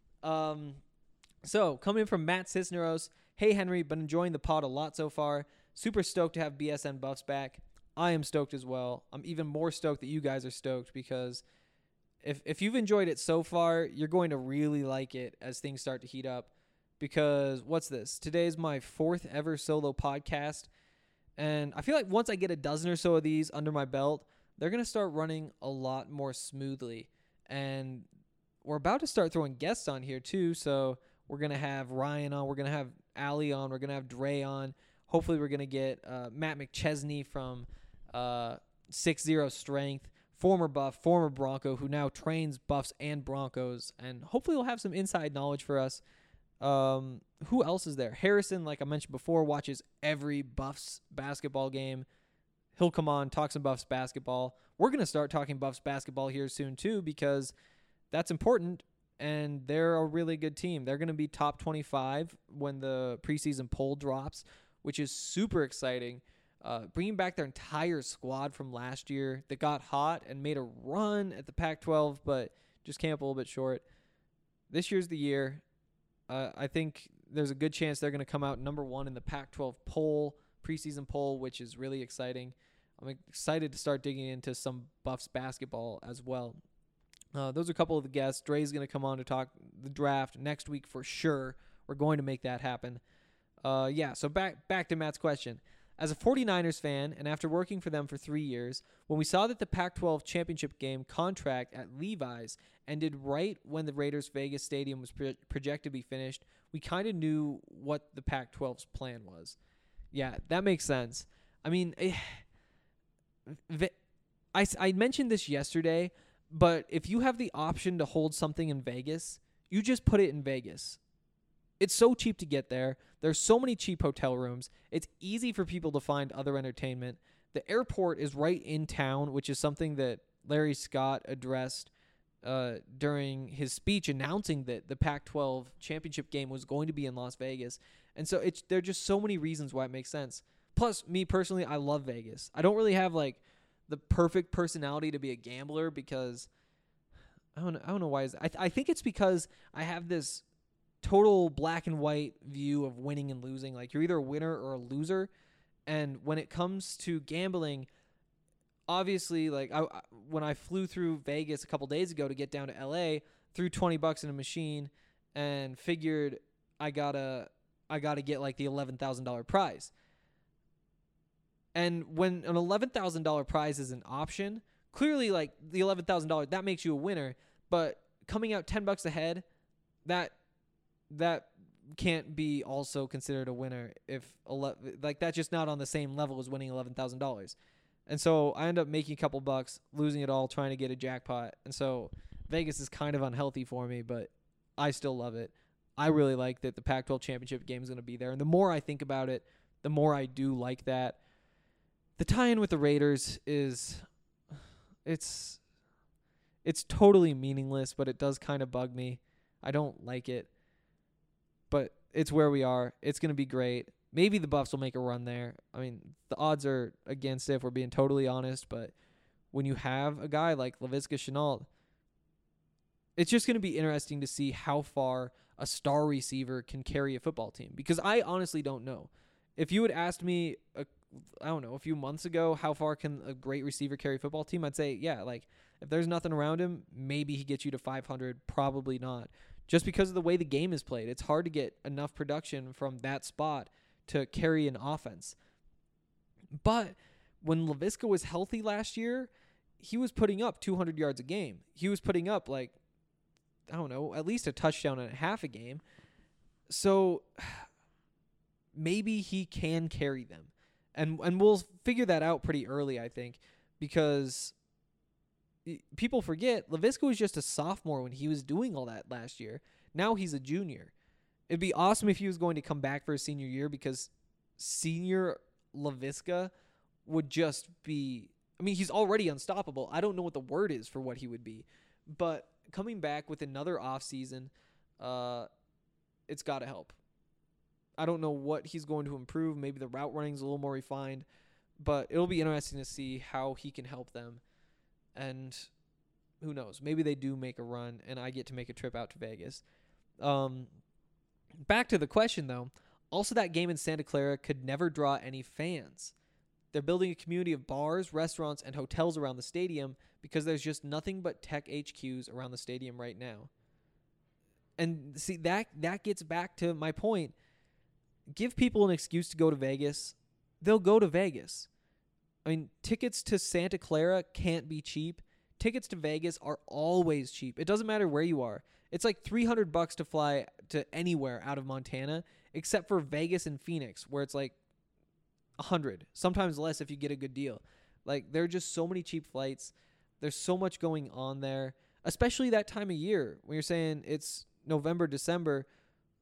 So, coming from Matt Cisneros, hey Henry, been enjoying the pod a lot so far. Super stoked to have BSN Buffs back. I am stoked as well. I'm even more stoked that you guys are stoked, because if you've enjoyed it so far, you're going to really like it as things start to heat up. Because what's this? Today's my 4th ever solo podcast. And I feel like once I get a dozen or so of these under my belt, they're going to start running a lot more smoothly. And we're about to start throwing guests on here too. So we're going to have Ryan on. We're going to have Allie on. We're going to have Dre on. Hopefully we're going to get Matt McChesney from 6-0 Strength. Former Buff, former Bronco, who now trains Buffs and Broncos, and hopefully will have some inside knowledge for us. Who else is there? Harrison, like I mentioned before, watches every Buffs basketball game. He'll come on, talk some Buffs basketball. We're going to start talking Buffs basketball here soon too, because that's important, and they're a really good team. They're going to be top 25 when the preseason poll drops, which is super exciting. Bringing back their entire squad from last year that got hot and made a run at the Pac-12, but just came up a little bit short. This year's the year. I think there's a good chance they're going to come out number 1 in the Pac-12 poll, preseason poll, which is really exciting. I'm excited to start digging into some Buffs basketball as well. Those are a couple of the guests. Dre's going to come on to talk the draft next week for sure. We're going to make that happen. So back to Matt's question. As a 49ers fan, and after working for them for 3 years, when we saw that the Pac-12 championship game contract at Levi's ended right when the Raiders' Vegas stadium was projected to be finished, we kind of knew what the Pac-12's plan was. Yeah, that makes sense. I mean, I mentioned this yesterday, but if you have the option to hold something in Vegas, you just put it in Vegas. It's so cheap to get there. There's so many cheap hotel rooms. It's easy for people to find other entertainment. The airport is right in town, which is something that Larry Scott addressed during his speech announcing that the Pac-12 championship game was going to be in Las Vegas. And so there are just so many reasons why it makes sense. Plus, me personally, I love Vegas. I don't really have like the perfect personality to be a gambler because I don't know why. I think it's because I have this total black and white view of winning and losing. Like, you're either a winner or a loser. And when it comes to gambling, obviously, like when I flew through Vegas a couple days ago to get down to LA, threw $20 in a machine and figured I gotta get like the $11,000 prize. And when an $11,000 prize is an option, clearly like the $11,000, that makes you a winner. But coming out $10 ahead, that can't be also considered a winner if that's just not on the same level as winning $11,000. And so I end up making a couple bucks, losing it all, trying to get a jackpot. And so Vegas is kind of unhealthy for me, but I still love it. I really like that the Pac-12 championship game is going to be there. And the more I think about it, the more I do like that. The tie-in with the Raiders it's totally meaningless, but it does kind of bug me. I don't like it. But it's where we are. It's going to be great. Maybe the Buffs will make a run there. I mean, the odds are against it if we're being totally honest. But when you have a guy like Laviska Shenault, it's just going to be interesting to see how far a star receiver can carry a football team. Because I honestly don't know. If you had asked me, a few months ago, how far can a great receiver carry a football team, I'd say, yeah, like if there's nothing around him, maybe he gets you to 500. Probably not. Just because of the way the game is played. It's hard to get enough production from that spot to carry an offense. But when Laviska was healthy last year, he was putting up 200 yards a game. He was putting up at least a touchdown and a half a game. So maybe he can carry them. And we'll figure that out pretty early, I think, because people forget Laviska was just a sophomore when he was doing all that last year. Now he's a junior. It'd be awesome if he was going to come back for his senior year, because senior Laviska would just be, he's already unstoppable. I don't know what the word is for what he would be, but coming back with another offseason, it's got to help. I don't know what he's going to improve. Maybe the route running is a little more refined, but it'll be interesting to see how he can help them. And who knows? Maybe they do make a run, and I get to make a trip out to Vegas. Back to the question, though. Also, that game in Santa Clara could never draw any fans. They're building a community of bars, restaurants, and hotels around the stadium because there's just nothing but tech HQs around the stadium right now. And see, that gets back to my point. Give people an excuse to go to Vegas. They'll go to Vegas. Tickets to Santa Clara can't be cheap. Tickets to Vegas are always cheap. It doesn't matter where you are. It's like $300 to fly to anywhere out of Montana, except for Vegas and Phoenix, where it's like $100, sometimes less if you get a good deal. Like, there are just so many cheap flights. There's so much going on there, especially that time of year when you're saying it's November, December.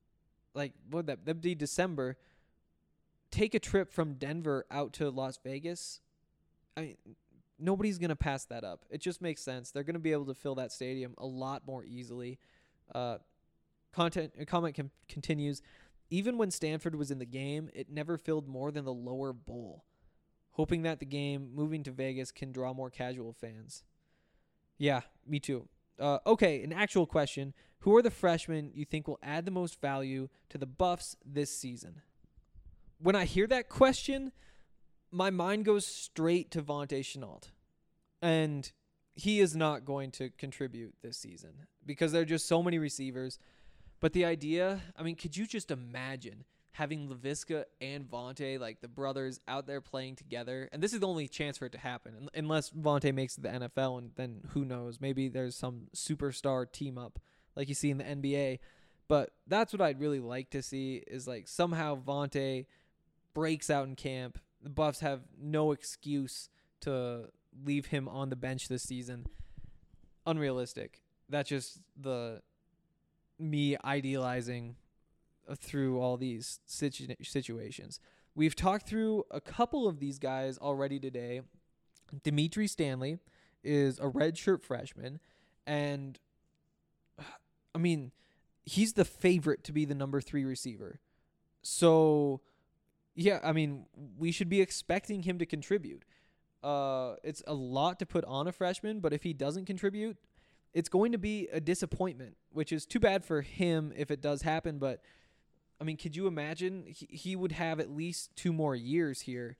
like what would that'd be December, take a trip from Denver out to Las Vegas. I mean, nobody's going to pass that up. It just makes sense. They're going to be able to fill that stadium a lot more easily. Comment continues. Even when Stanford was in the game, it never filled more than the lower bowl. Hoping that the game moving to Vegas can draw more casual fans. Yeah, me too. Okay, an actual question. Who are the freshmen you think will add the most value to the Buffs this season? When I hear that question, my mind goes straight to Vontae Shenault. And he is not going to contribute this season because there are just so many receivers. But the idea, I mean, could you just imagine having Laviska and Vontae, like the brothers, out there playing together? And this is the only chance for it to happen, unless Vontae makes it to the NFL, and then who knows? Maybe there's some superstar team up like you see in the NBA. But that's what I'd really like to see is like somehow Vontae breaks out in camp. The Buffs have no excuse to leave him on the bench this season. Unrealistic. That's just me idealizing through all these situations. We've talked through a couple of these guys already today. Dimitri Stanley is a redshirt freshman, and I mean, he's the favorite to be the number 3 receiver. So, yeah, I mean, we should be expecting him to contribute. It's a lot to put on a freshman, but if he doesn't contribute, it's going to be a disappointment, which is too bad for him if it does happen. But, I mean, could you imagine? He would have at least 2 more years here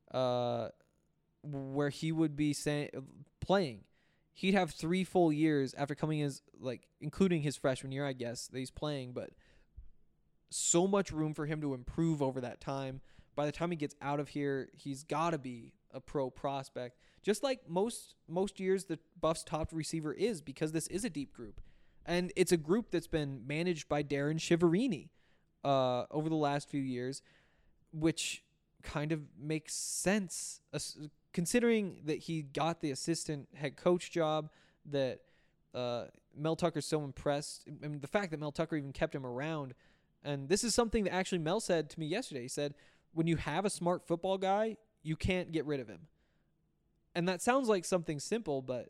where he would be playing. He'd have 3 full years after coming as, like, including his freshman year, I guess, that he's playing. But so much room for him to improve over that time. By the time he gets out of here, he's got to be a pro prospect. Just like most years the Buffs' top receiver is, because this is a deep group. And it's a group that's been managed by Darren Shiverini over the last few years, which kind of makes sense considering that he got the assistant head coach job, that Mel Tucker's so impressed. I mean, the fact that Mel Tucker even kept him around. And this is something that actually Mel said to me yesterday. He said, when you have a smart football guy, you can't get rid of him. And that sounds like something simple, but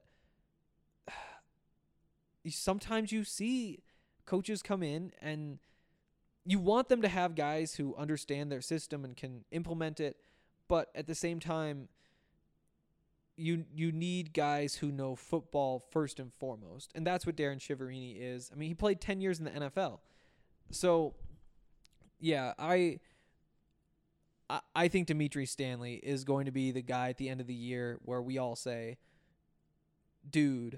sometimes you see coaches come in and you want them to have guys who understand their system and can implement it, but at the same time, you need guys who know football first and foremost. And that's what Darren Shiverini is. I mean, he played 10 years in the NFL. So, yeah, I think Dimitri Stanley is going to be the guy at the end of the year where we all say, dude,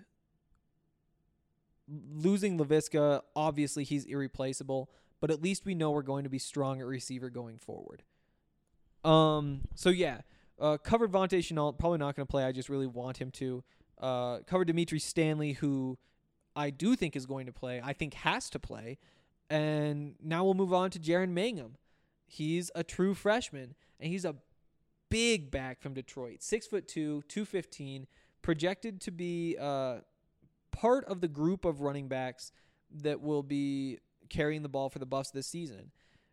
losing Laviska, obviously he's irreplaceable, but at least we know we're going to be strong at receiver going forward. So yeah, covered Vontae Shenault, probably not going to play. I just really want him to. Covered Dimitri Stanley, who I do think is going to play. I think has to play. And now we'll move on to Jaren Mangham. He's a true freshman, and he's a big back from Detroit. 6'2", 215, projected to be part of the group of running backs that will be carrying the ball for the Buffs this season.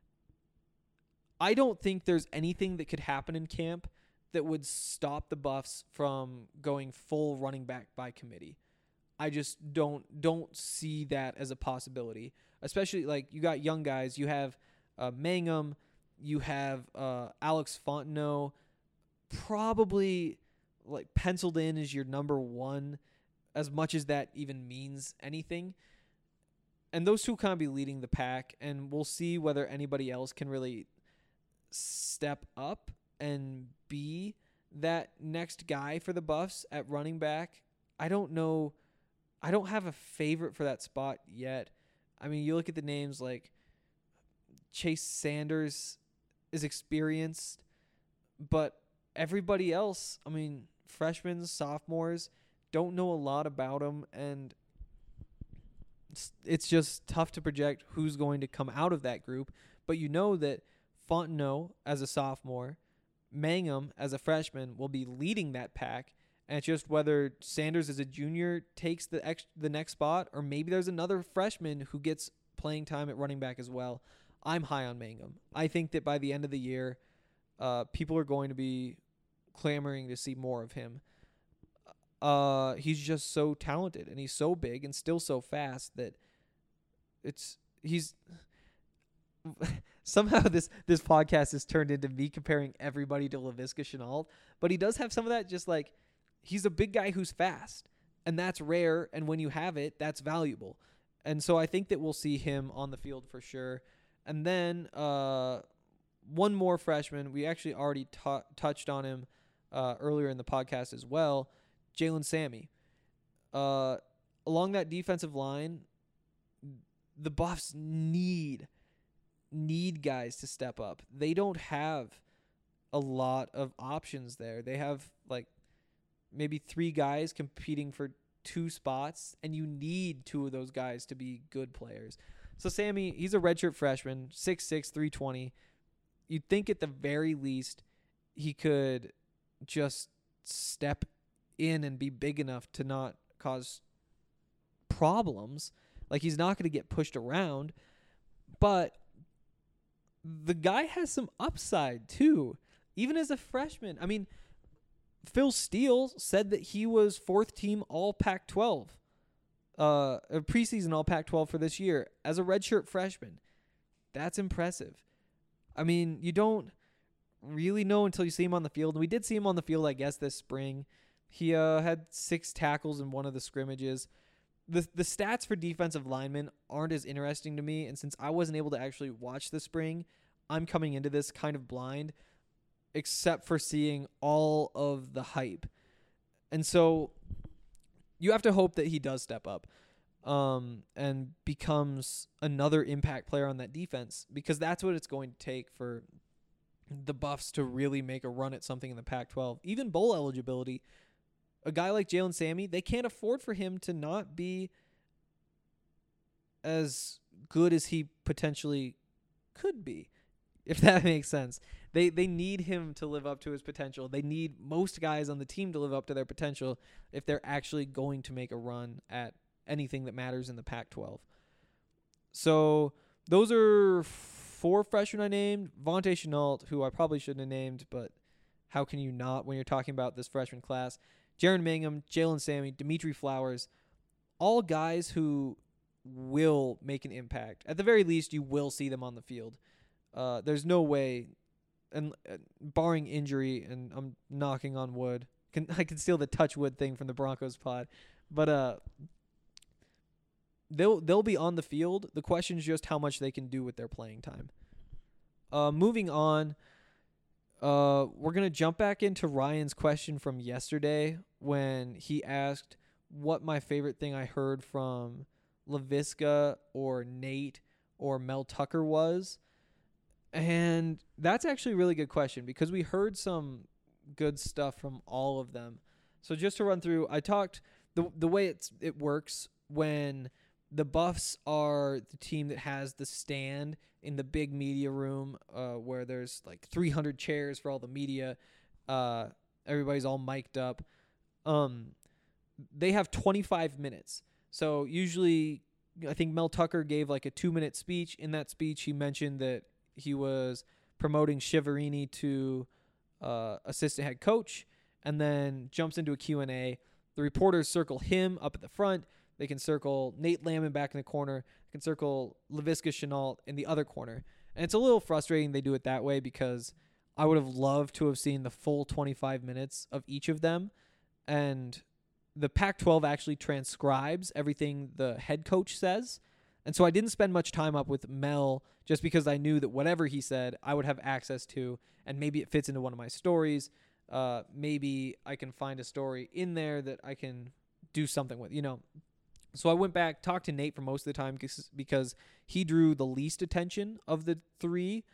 I don't think there's anything that could happen in camp that would stop the Buffs from going full running back by committee. I just don't see that as a possibility. Especially, like, you got young guys. You have Mangham. You have Alex Fontenot. Probably, like, penciled in as your number 1, as much as that even means anything. And those two kind of be leading the pack, and we'll see whether anybody else can really step up and be that next guy for the Buffs at running back. I don't know. I don't have a favorite for that spot yet. I mean, you look at the names like Chase Sanders is experienced, but everybody else, I mean, freshmen, sophomores, don't know a lot about them, and it's just tough to project who's going to come out of that group. But you know that Fontenot as a sophomore, Mangham as a freshman will be leading that pack, and it's just whether Sanders as a junior takes the next spot, or maybe there's another freshman who gets playing time at running back as well. I'm high on Mangum. I think that by the end of the year, people are going to be clamoring to see more of him. He's just so talented, and he's so big and still so fast that he's somehow this podcast has turned into me comparing everybody to Laviska Shenault, but he does have some of that. Just like, he's a big guy who's fast, and that's rare, and when you have it, that's valuable. And so I think that we'll see him on the field for sure. And then one more freshman, we actually already touched on him earlier in the podcast as well, Jalen Sammy. Along that defensive line, the Buffs need guys to step up. They don't have a lot of options there. They have like maybe 3 guys competing for 2 spots, and you need 2 of those guys to be good players. So Sammy, he's a redshirt freshman, 6'6", 320. You'd think at the very least he could just step in and be big enough to not cause problems. Like, he's not going to get pushed around, but the guy has some upside too, even as a freshman. I mean, Phil Steele said that he was 4th team All Pac-12, preseason All Pac-12 for this year as a redshirt freshman. That's impressive. I mean, you don't really know until you see him on the field. And we did see him on the field, I guess, this spring. He had 6 tackles in one of the scrimmages. The stats for defensive linemen aren't as interesting to me, and since I wasn't able to actually watch the spring, I'm coming into this kind of blind, except for seeing all of the hype. And so you have to hope that he does step up and becomes another impact player on that defense, because that's what it's going to take for the Buffs to really make a run at something in the Pac-12. Even bowl eligibility, a guy like Jalen Sammy, they can't afford for him to not be as good as he potentially could be, if that makes sense. They need him to live up to his potential. They need most guys on the team to live up to their potential if they're actually going to make a run at anything that matters in the Pac-12. So those are 4 freshmen I named. Vontae Shenault, who I probably shouldn't have named, but how can you not when you're talking about this freshman class? Jaron Mangum, Jalen Sammy, Dimitri Flowers, all guys who will make an impact. At the very least, you will see them on the field. There's no way, and barring injury, and I'm knocking on wood. I can steal the touch wood thing from the Broncos pod, but they'll be on the field. The question is just how much they can do with their playing time. Moving on. We're going to jump back into Ryan's question from yesterday when he asked what my favorite thing I heard from Laviska or Nate or Mel Tucker was. And that's actually a really good question because we heard some good stuff from all of them. So just to run through, I talked the way it works when the Buffs are the team that has the stand in the big media room where there's like 300 chairs for all the media. Everybody's all mic'd up. They have 25 minutes. So usually I think Mel Tucker gave like a 2-minute speech. In that speech, he mentioned that he was promoting Shiverini to assistant head coach and then jumps into a Q&A. The reporters circle him up at the front. They can circle Nate Lamon back in the corner. They can circle Laviska Shenault in the other corner. And it's a little frustrating they do it that way because I would have loved to have seen the full 25 minutes of each of them. And the Pac-12 actually transcribes everything the head coach says. And so I didn't spend much time up with Mel just because I knew that whatever he said, I would have access to, and maybe it fits into one of my stories. Maybe I can find a story in there that I can do something with, So I went back, talked to Nate for most of the time because he drew the least attention of the 3.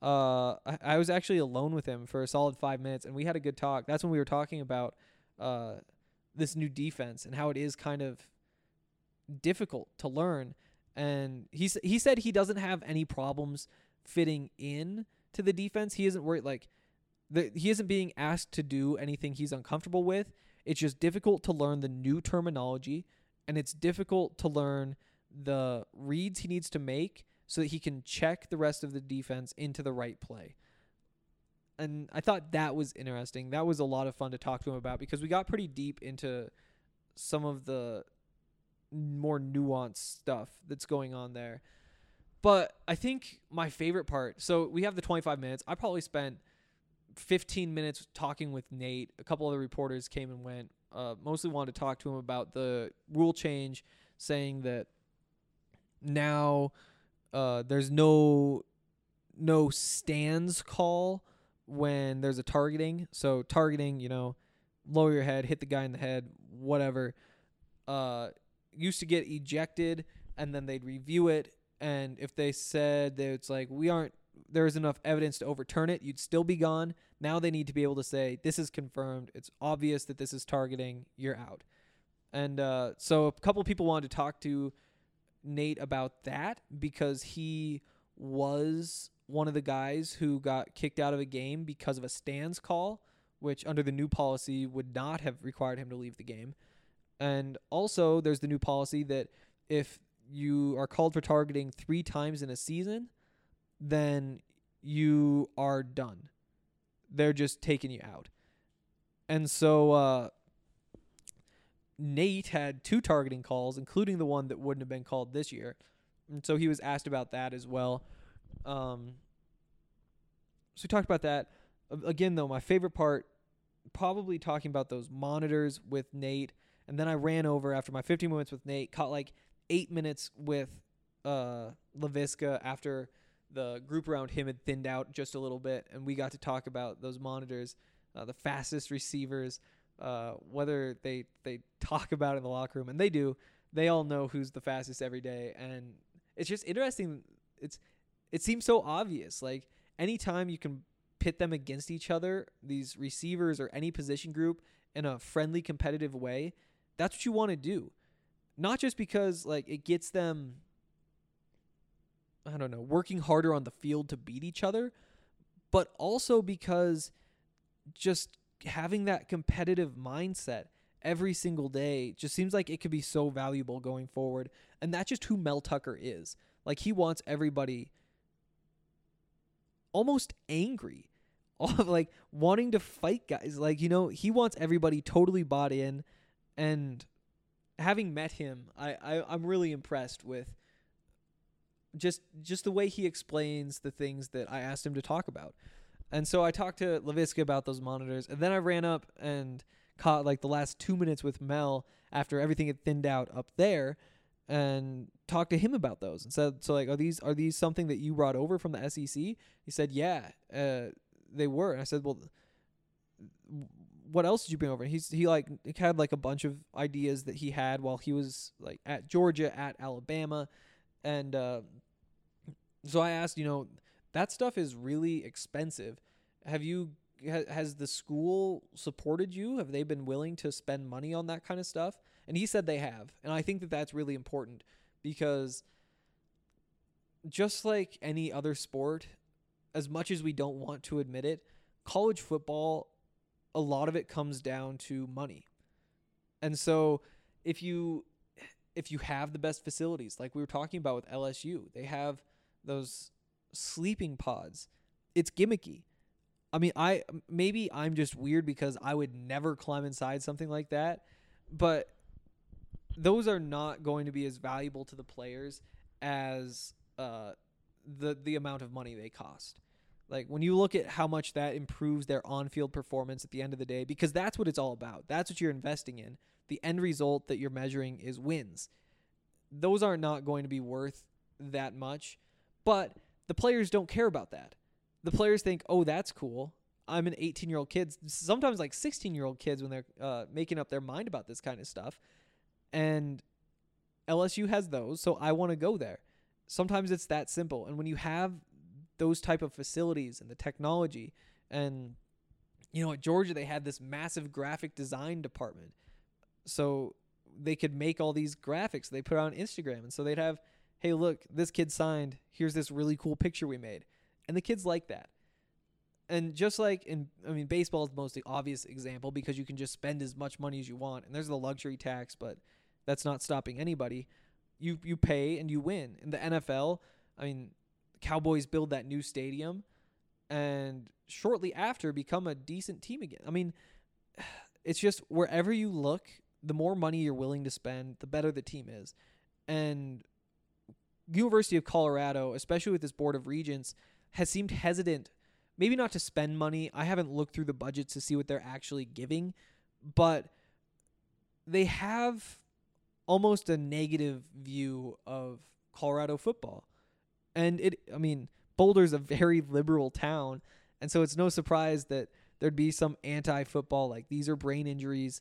I was actually alone with him for a solid 5 minutes, and we had a good talk. That's when we were talking about this new defense and how it is kind of difficult to learn. And he said he doesn't have any problems fitting in to the defense. He isn't worried, he isn't being asked to do anything he's uncomfortable with. It's just difficult to learn the new terminology, and it's difficult to learn the reads he needs to make so that he can check the rest of the defense into the right play. And I thought that was interesting. That was a lot of fun to talk to him about because we got pretty deep into some of the more nuanced stuff that's going on there. But I think my favorite part, so we have the 25 minutes. I probably spent 15 minutes talking with Nate. A couple other reporters came and went. Mostly wanted to talk to him about the rule change, saying that now there's no stands call when there's a targeting. So targeting, lower your head, hit the guy in the head, whatever. Used to get ejected, and then they'd review it. And if they said that it's like, there is enough evidence to overturn it, you'd still be gone. Now they need to be able to say, this is confirmed. It's obvious that this is targeting. You're out. And so a couple of people wanted to talk to Nate about that because he was one of the guys who got kicked out of a game because of a stands call, which under the new policy would not have required him to leave the game. And also there's the new policy that if you are called for targeting 3 times in a season, then you are done. They're just taking you out. And so Nate had 2 targeting calls, including the one that wouldn't have been called this year. And so he was asked about that as well. So we talked about that. Again, though, my favorite part, probably talking about those monitors with Nate. And then I ran over after my 15 minutes with Nate, caught like 8 minutes with Laviska after the group around him had thinned out just a little bit, and we got to talk about those monitors, the fastest receivers, whether they talk about it in the locker room, and they do. They all know who's the fastest every day, and it's just interesting. It seems so obvious. Like, anytime you can pit them against each other, these receivers or any position group, in a friendly, competitive way, that's what you want to do. Not just because like it gets them, I don't know, working harder on the field to beat each other, but also because just having that competitive mindset every single day just seems like it could be so valuable going forward. And that's just who Mel Tucker is. Like, he wants everybody almost angry, like wanting to fight guys. Like, he wants everybody totally bought in. And having met him, I'm really impressed with just the way he explains the things that I asked him to talk about. And so I talked to Laviska about those monitors, and then I ran up and caught like the last 2 minutes with Mel after everything had thinned out up there, and talked to him about those and said, so like, are these something that you brought over from the SEC? He said, yeah, they were. And I said, well, what else did you bring over? He had like a bunch of ideas that he had while he was like at Georgia, at Alabama. And so I asked, that stuff is really expensive. Has the school supported you? Have they been willing to spend money on that kind of stuff? And he said they have. And I think that that's really important because just like any other sport, as much as we don't want to admit it, college football, a lot of it comes down to money. And so if you have the best facilities, like we were talking about with LSU, they have those sleeping pods. It's gimmicky. I mean, maybe I'm just weird because I would never climb inside something like that, but those are not going to be as valuable to the players as the amount of money they cost. Like, when you look at how much that improves their on-field performance at the end of the day, because that's what it's all about. That's what you're investing in. The end result that you're measuring is wins. Those are not going to be worth that much, but the players don't care about that. The players think, oh, that's cool. I'm an 18-year-old kid, sometimes like 16-year-old kids when they're making up their mind about this kind of stuff. And LSU has those, so I want to go there. Sometimes it's that simple. And when you have those type of facilities and the technology, and at Georgia they had this massive graphic design department, so they could make all these graphics they put on Instagram. And so they'd have, hey, look, this kid signed, here's this really cool picture we made. And the kids like that. And just like baseball is the most obvious example because you can just spend as much money as you want, and there's the luxury tax, but that's not stopping anybody. You pay and you win. In the NFL, I mean, Cowboys build that new stadium and shortly after become a decent team again. I mean, it's just wherever you look, the more money you're willing to spend, the better the team is. And University of Colorado, especially with this Board of Regents, has seemed hesitant, maybe not to spend money. I haven't looked through the budgets to see what they're actually giving, but they have almost a negative view of Colorado football. And Boulder's a very liberal town, and so it's no surprise that there'd be some anti-football, like these are brain injuries.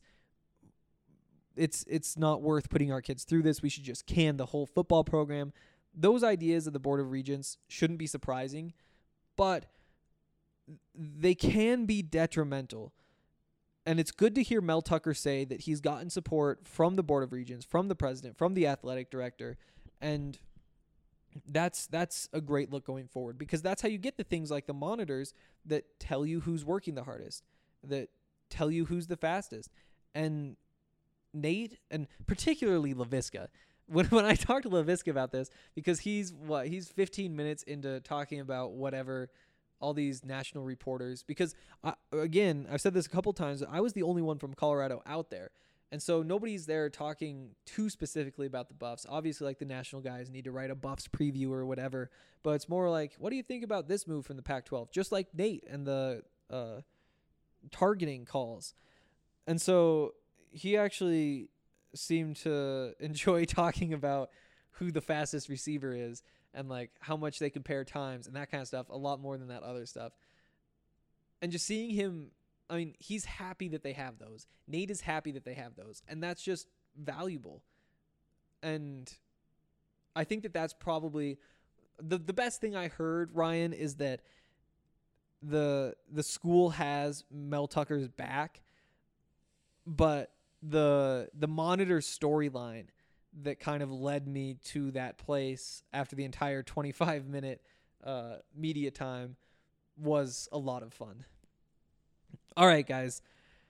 It's not worth putting our kids through this. We should just can the whole football program. Those ideas of the Board of Regents shouldn't be surprising, but they can be detrimental. And it's good to hear Mel Tucker say that he's gotten support from the Board of Regents, from the president, from the athletic director, and that's a great look going forward, because that's how you get the things like the monitors that tell you who's working the hardest, that tell you who's the fastest. And Nate, and particularly Laviska, when I talked to Laviska about this, because he's 15 minutes into talking about whatever, all these national reporters, because I've said this a couple times, I was the only one from Colorado out there. And so nobody's there talking too specifically about the Buffs. Obviously, like the national guys need to write a Buffs preview or whatever, but it's more like, what do you think about this move from the Pac-12? Just like Nate and the targeting calls. And so he actually seemed to enjoy talking about who the fastest receiver is and like how much they compare times and that kind of stuff, a lot more than that other stuff. And just seeing him, I mean, he's happy that they have those. Nate is happy that they have those. And that's just valuable. And I think that that's probably the best thing I heard, Ryan, is that the school has Mel Tucker's back, but the monitor storyline that kind of led me to that place after the entire 25-minute media was a lot of fun. All right, guys.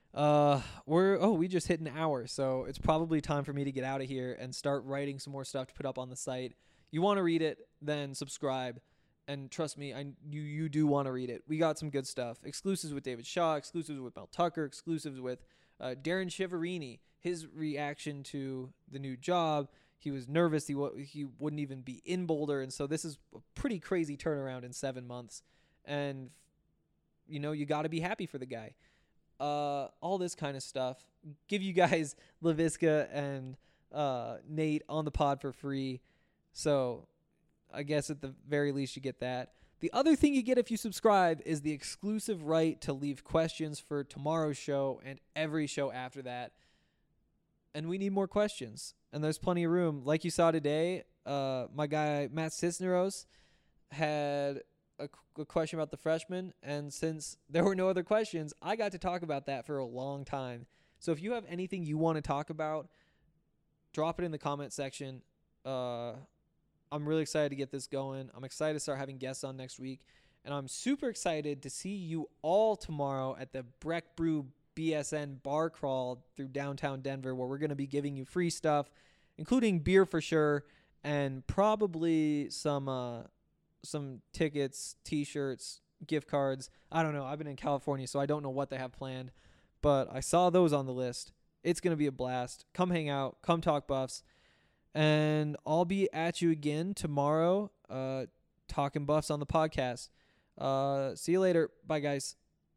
We just hit an hour, so it's probably time for me to get out of here and start writing some more stuff to put up on the site. You want to read it, then subscribe. And trust me, you do want to read it. We got some good stuff. Exclusives with David Shaw, exclusives with Mel Tucker, exclusives with Darren Chiaverini, his reaction to the new job. He was nervous. He wouldn't even be in Boulder. And so this is a pretty crazy turnaround in 7 months. And, you got to be happy for the guy. All this kind of stuff. Give you guys Laviska and Nate on the pod for free. So I guess at the very least you get that. The other thing you get if you subscribe is the exclusive right to leave questions for tomorrow's show and every show after that. And we need more questions. And there's plenty of room. Like you saw today, my guy Matt Cisneros had a question about the freshmen. And since there were no other questions, I got to talk about that for a long time. So if you have anything you want to talk about, drop it in the comment section. I'm really excited to get this going. I'm excited to start having guests on next week. And I'm super excited to see you all tomorrow at the Breck Brew BSN bar crawl through downtown Denver, where we're going to be giving you free stuff, including beer for sure, and probably some tickets, T-shirts, gift cards. I don't know. I've been in California, so I don't know what they have planned. But I saw those on the list. It's going to be a blast. Come hang out. Come talk Buffs. And I'll be at you again tomorrow, talking Buffs on the podcast. See you later. Bye, guys.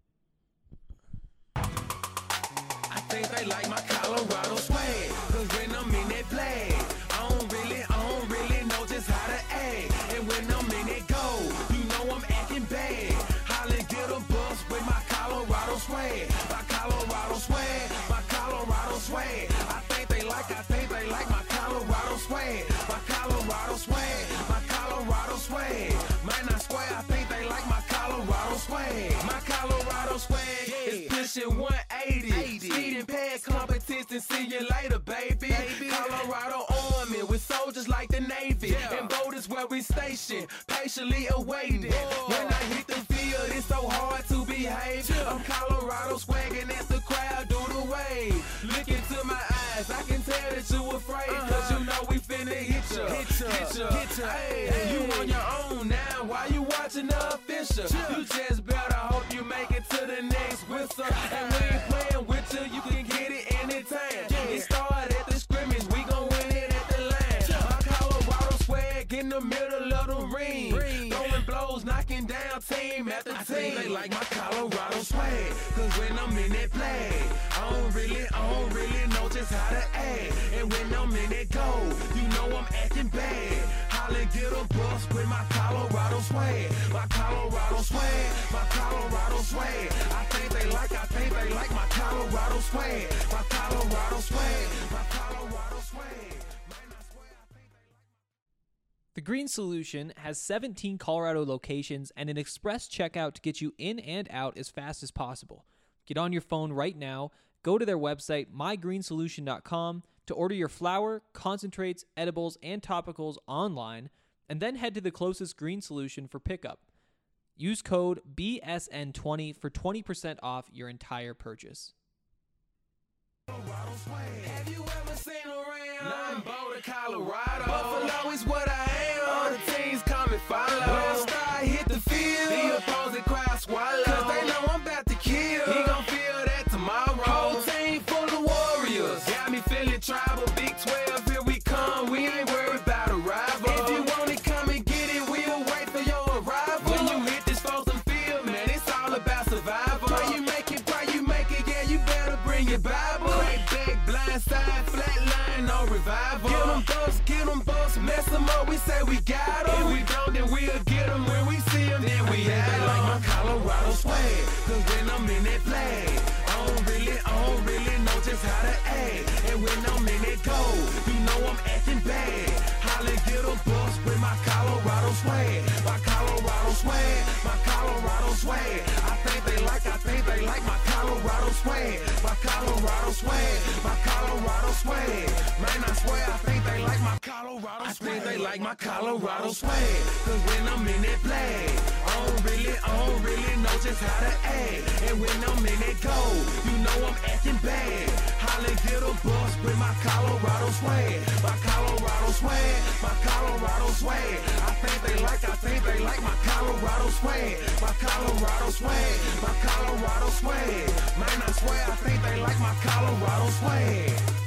I think they like my Colorado swag, 'cause when I'm in that flag, I don't really know just how to act. And when I'm in that goal, you know I'm acting bad. Holla, get a bus with my Colorado swag. My Colorado swag, my Colorado swag. I think they like my Colorado swag. My Colorado swag, my Colorado swag. Man, I swear, I think they like my Colorado swag. My Colorado swag is pushing 180. Speeding past competition, see you later, baby. Colorado Army with soldiers like the Navy. And boat is where we station, patiently awaiting. When I hit the field, it's so hard to behave. I'm Colorado swagging as the crowd do the wave. Look into my eyes, I can tell that you afraid, 'cause you know we finna hit ya. Hey, you on your own now. Why you watching the official? You just better hope you make it to the next whistle. And we ain't playing with you. You can get it anytime. It started at the scrimmage. We gon' win it at the line. My Colorado swag in the middle of the ring. Throwing blows, knocking down team after team. I think they like my Colorado swag. Cause when I'm in that play, I don't really know just how to act. And when I'm in that goal, you know I'm acting bad. Holla, get a bus with my Colorado swag. My Colorado swag, my Colorado swag. I think they like my Colorado swag. My Colorado swag, my Colorado swag. The Green Solution has 17 Colorado locations and an express checkout to get you in and out as fast as possible. Get on your phone right now, go to their website, mygreensolution.com, to order your flour, concentrates, edibles, and topicals online, and then head to the closest Green Solution for pickup. Use code BSN20 for 20% off your entire purchase. Have you ever seen around Boulder, Colorado? Buffalo is what I am. All the teams come and follow. When Star hit the field, the opposing crowd swallow. Cause they know I'm about to kill. He gon' feel that tomorrow. Whole team full of warriors. Got me feeling tribal. Big 12, here we come. We ain't worried about a rival. If you want it, come and get it. We'll wait for your arrival. When you hit this frozen field, man, it's all about survival. Pray you make it, yeah, you better bring your Bible. Blind side, flat line, no revival. Get them bust, mess them up, we say we got them. If we don't, then we'll get them. When we see them, then we have them. Like my Colorado swag, cause when I'm in that play, I don't really know just how to act. And when I'm in that goal, you know I'm acting bad. Holla, get a bus with my Colorado swag. My Colorado swag, my Colorado swag. I think they like my Colorado swag. My Colorado swag, my Colorado swag. Man, I swear I think they like my Colorado swag. I think they like my Colorado swag. Cause when I'm in that play, I don't really know just how to act. And when I'm in that goal, you know I'm acting bad. Holla, get a bus with my Colorado swag. My Colorado swag, my Colorado swag. I think they like my Colorado swag. My Colorado swag, my Colorado swag. Man, I swear I think they like my Colorado swag.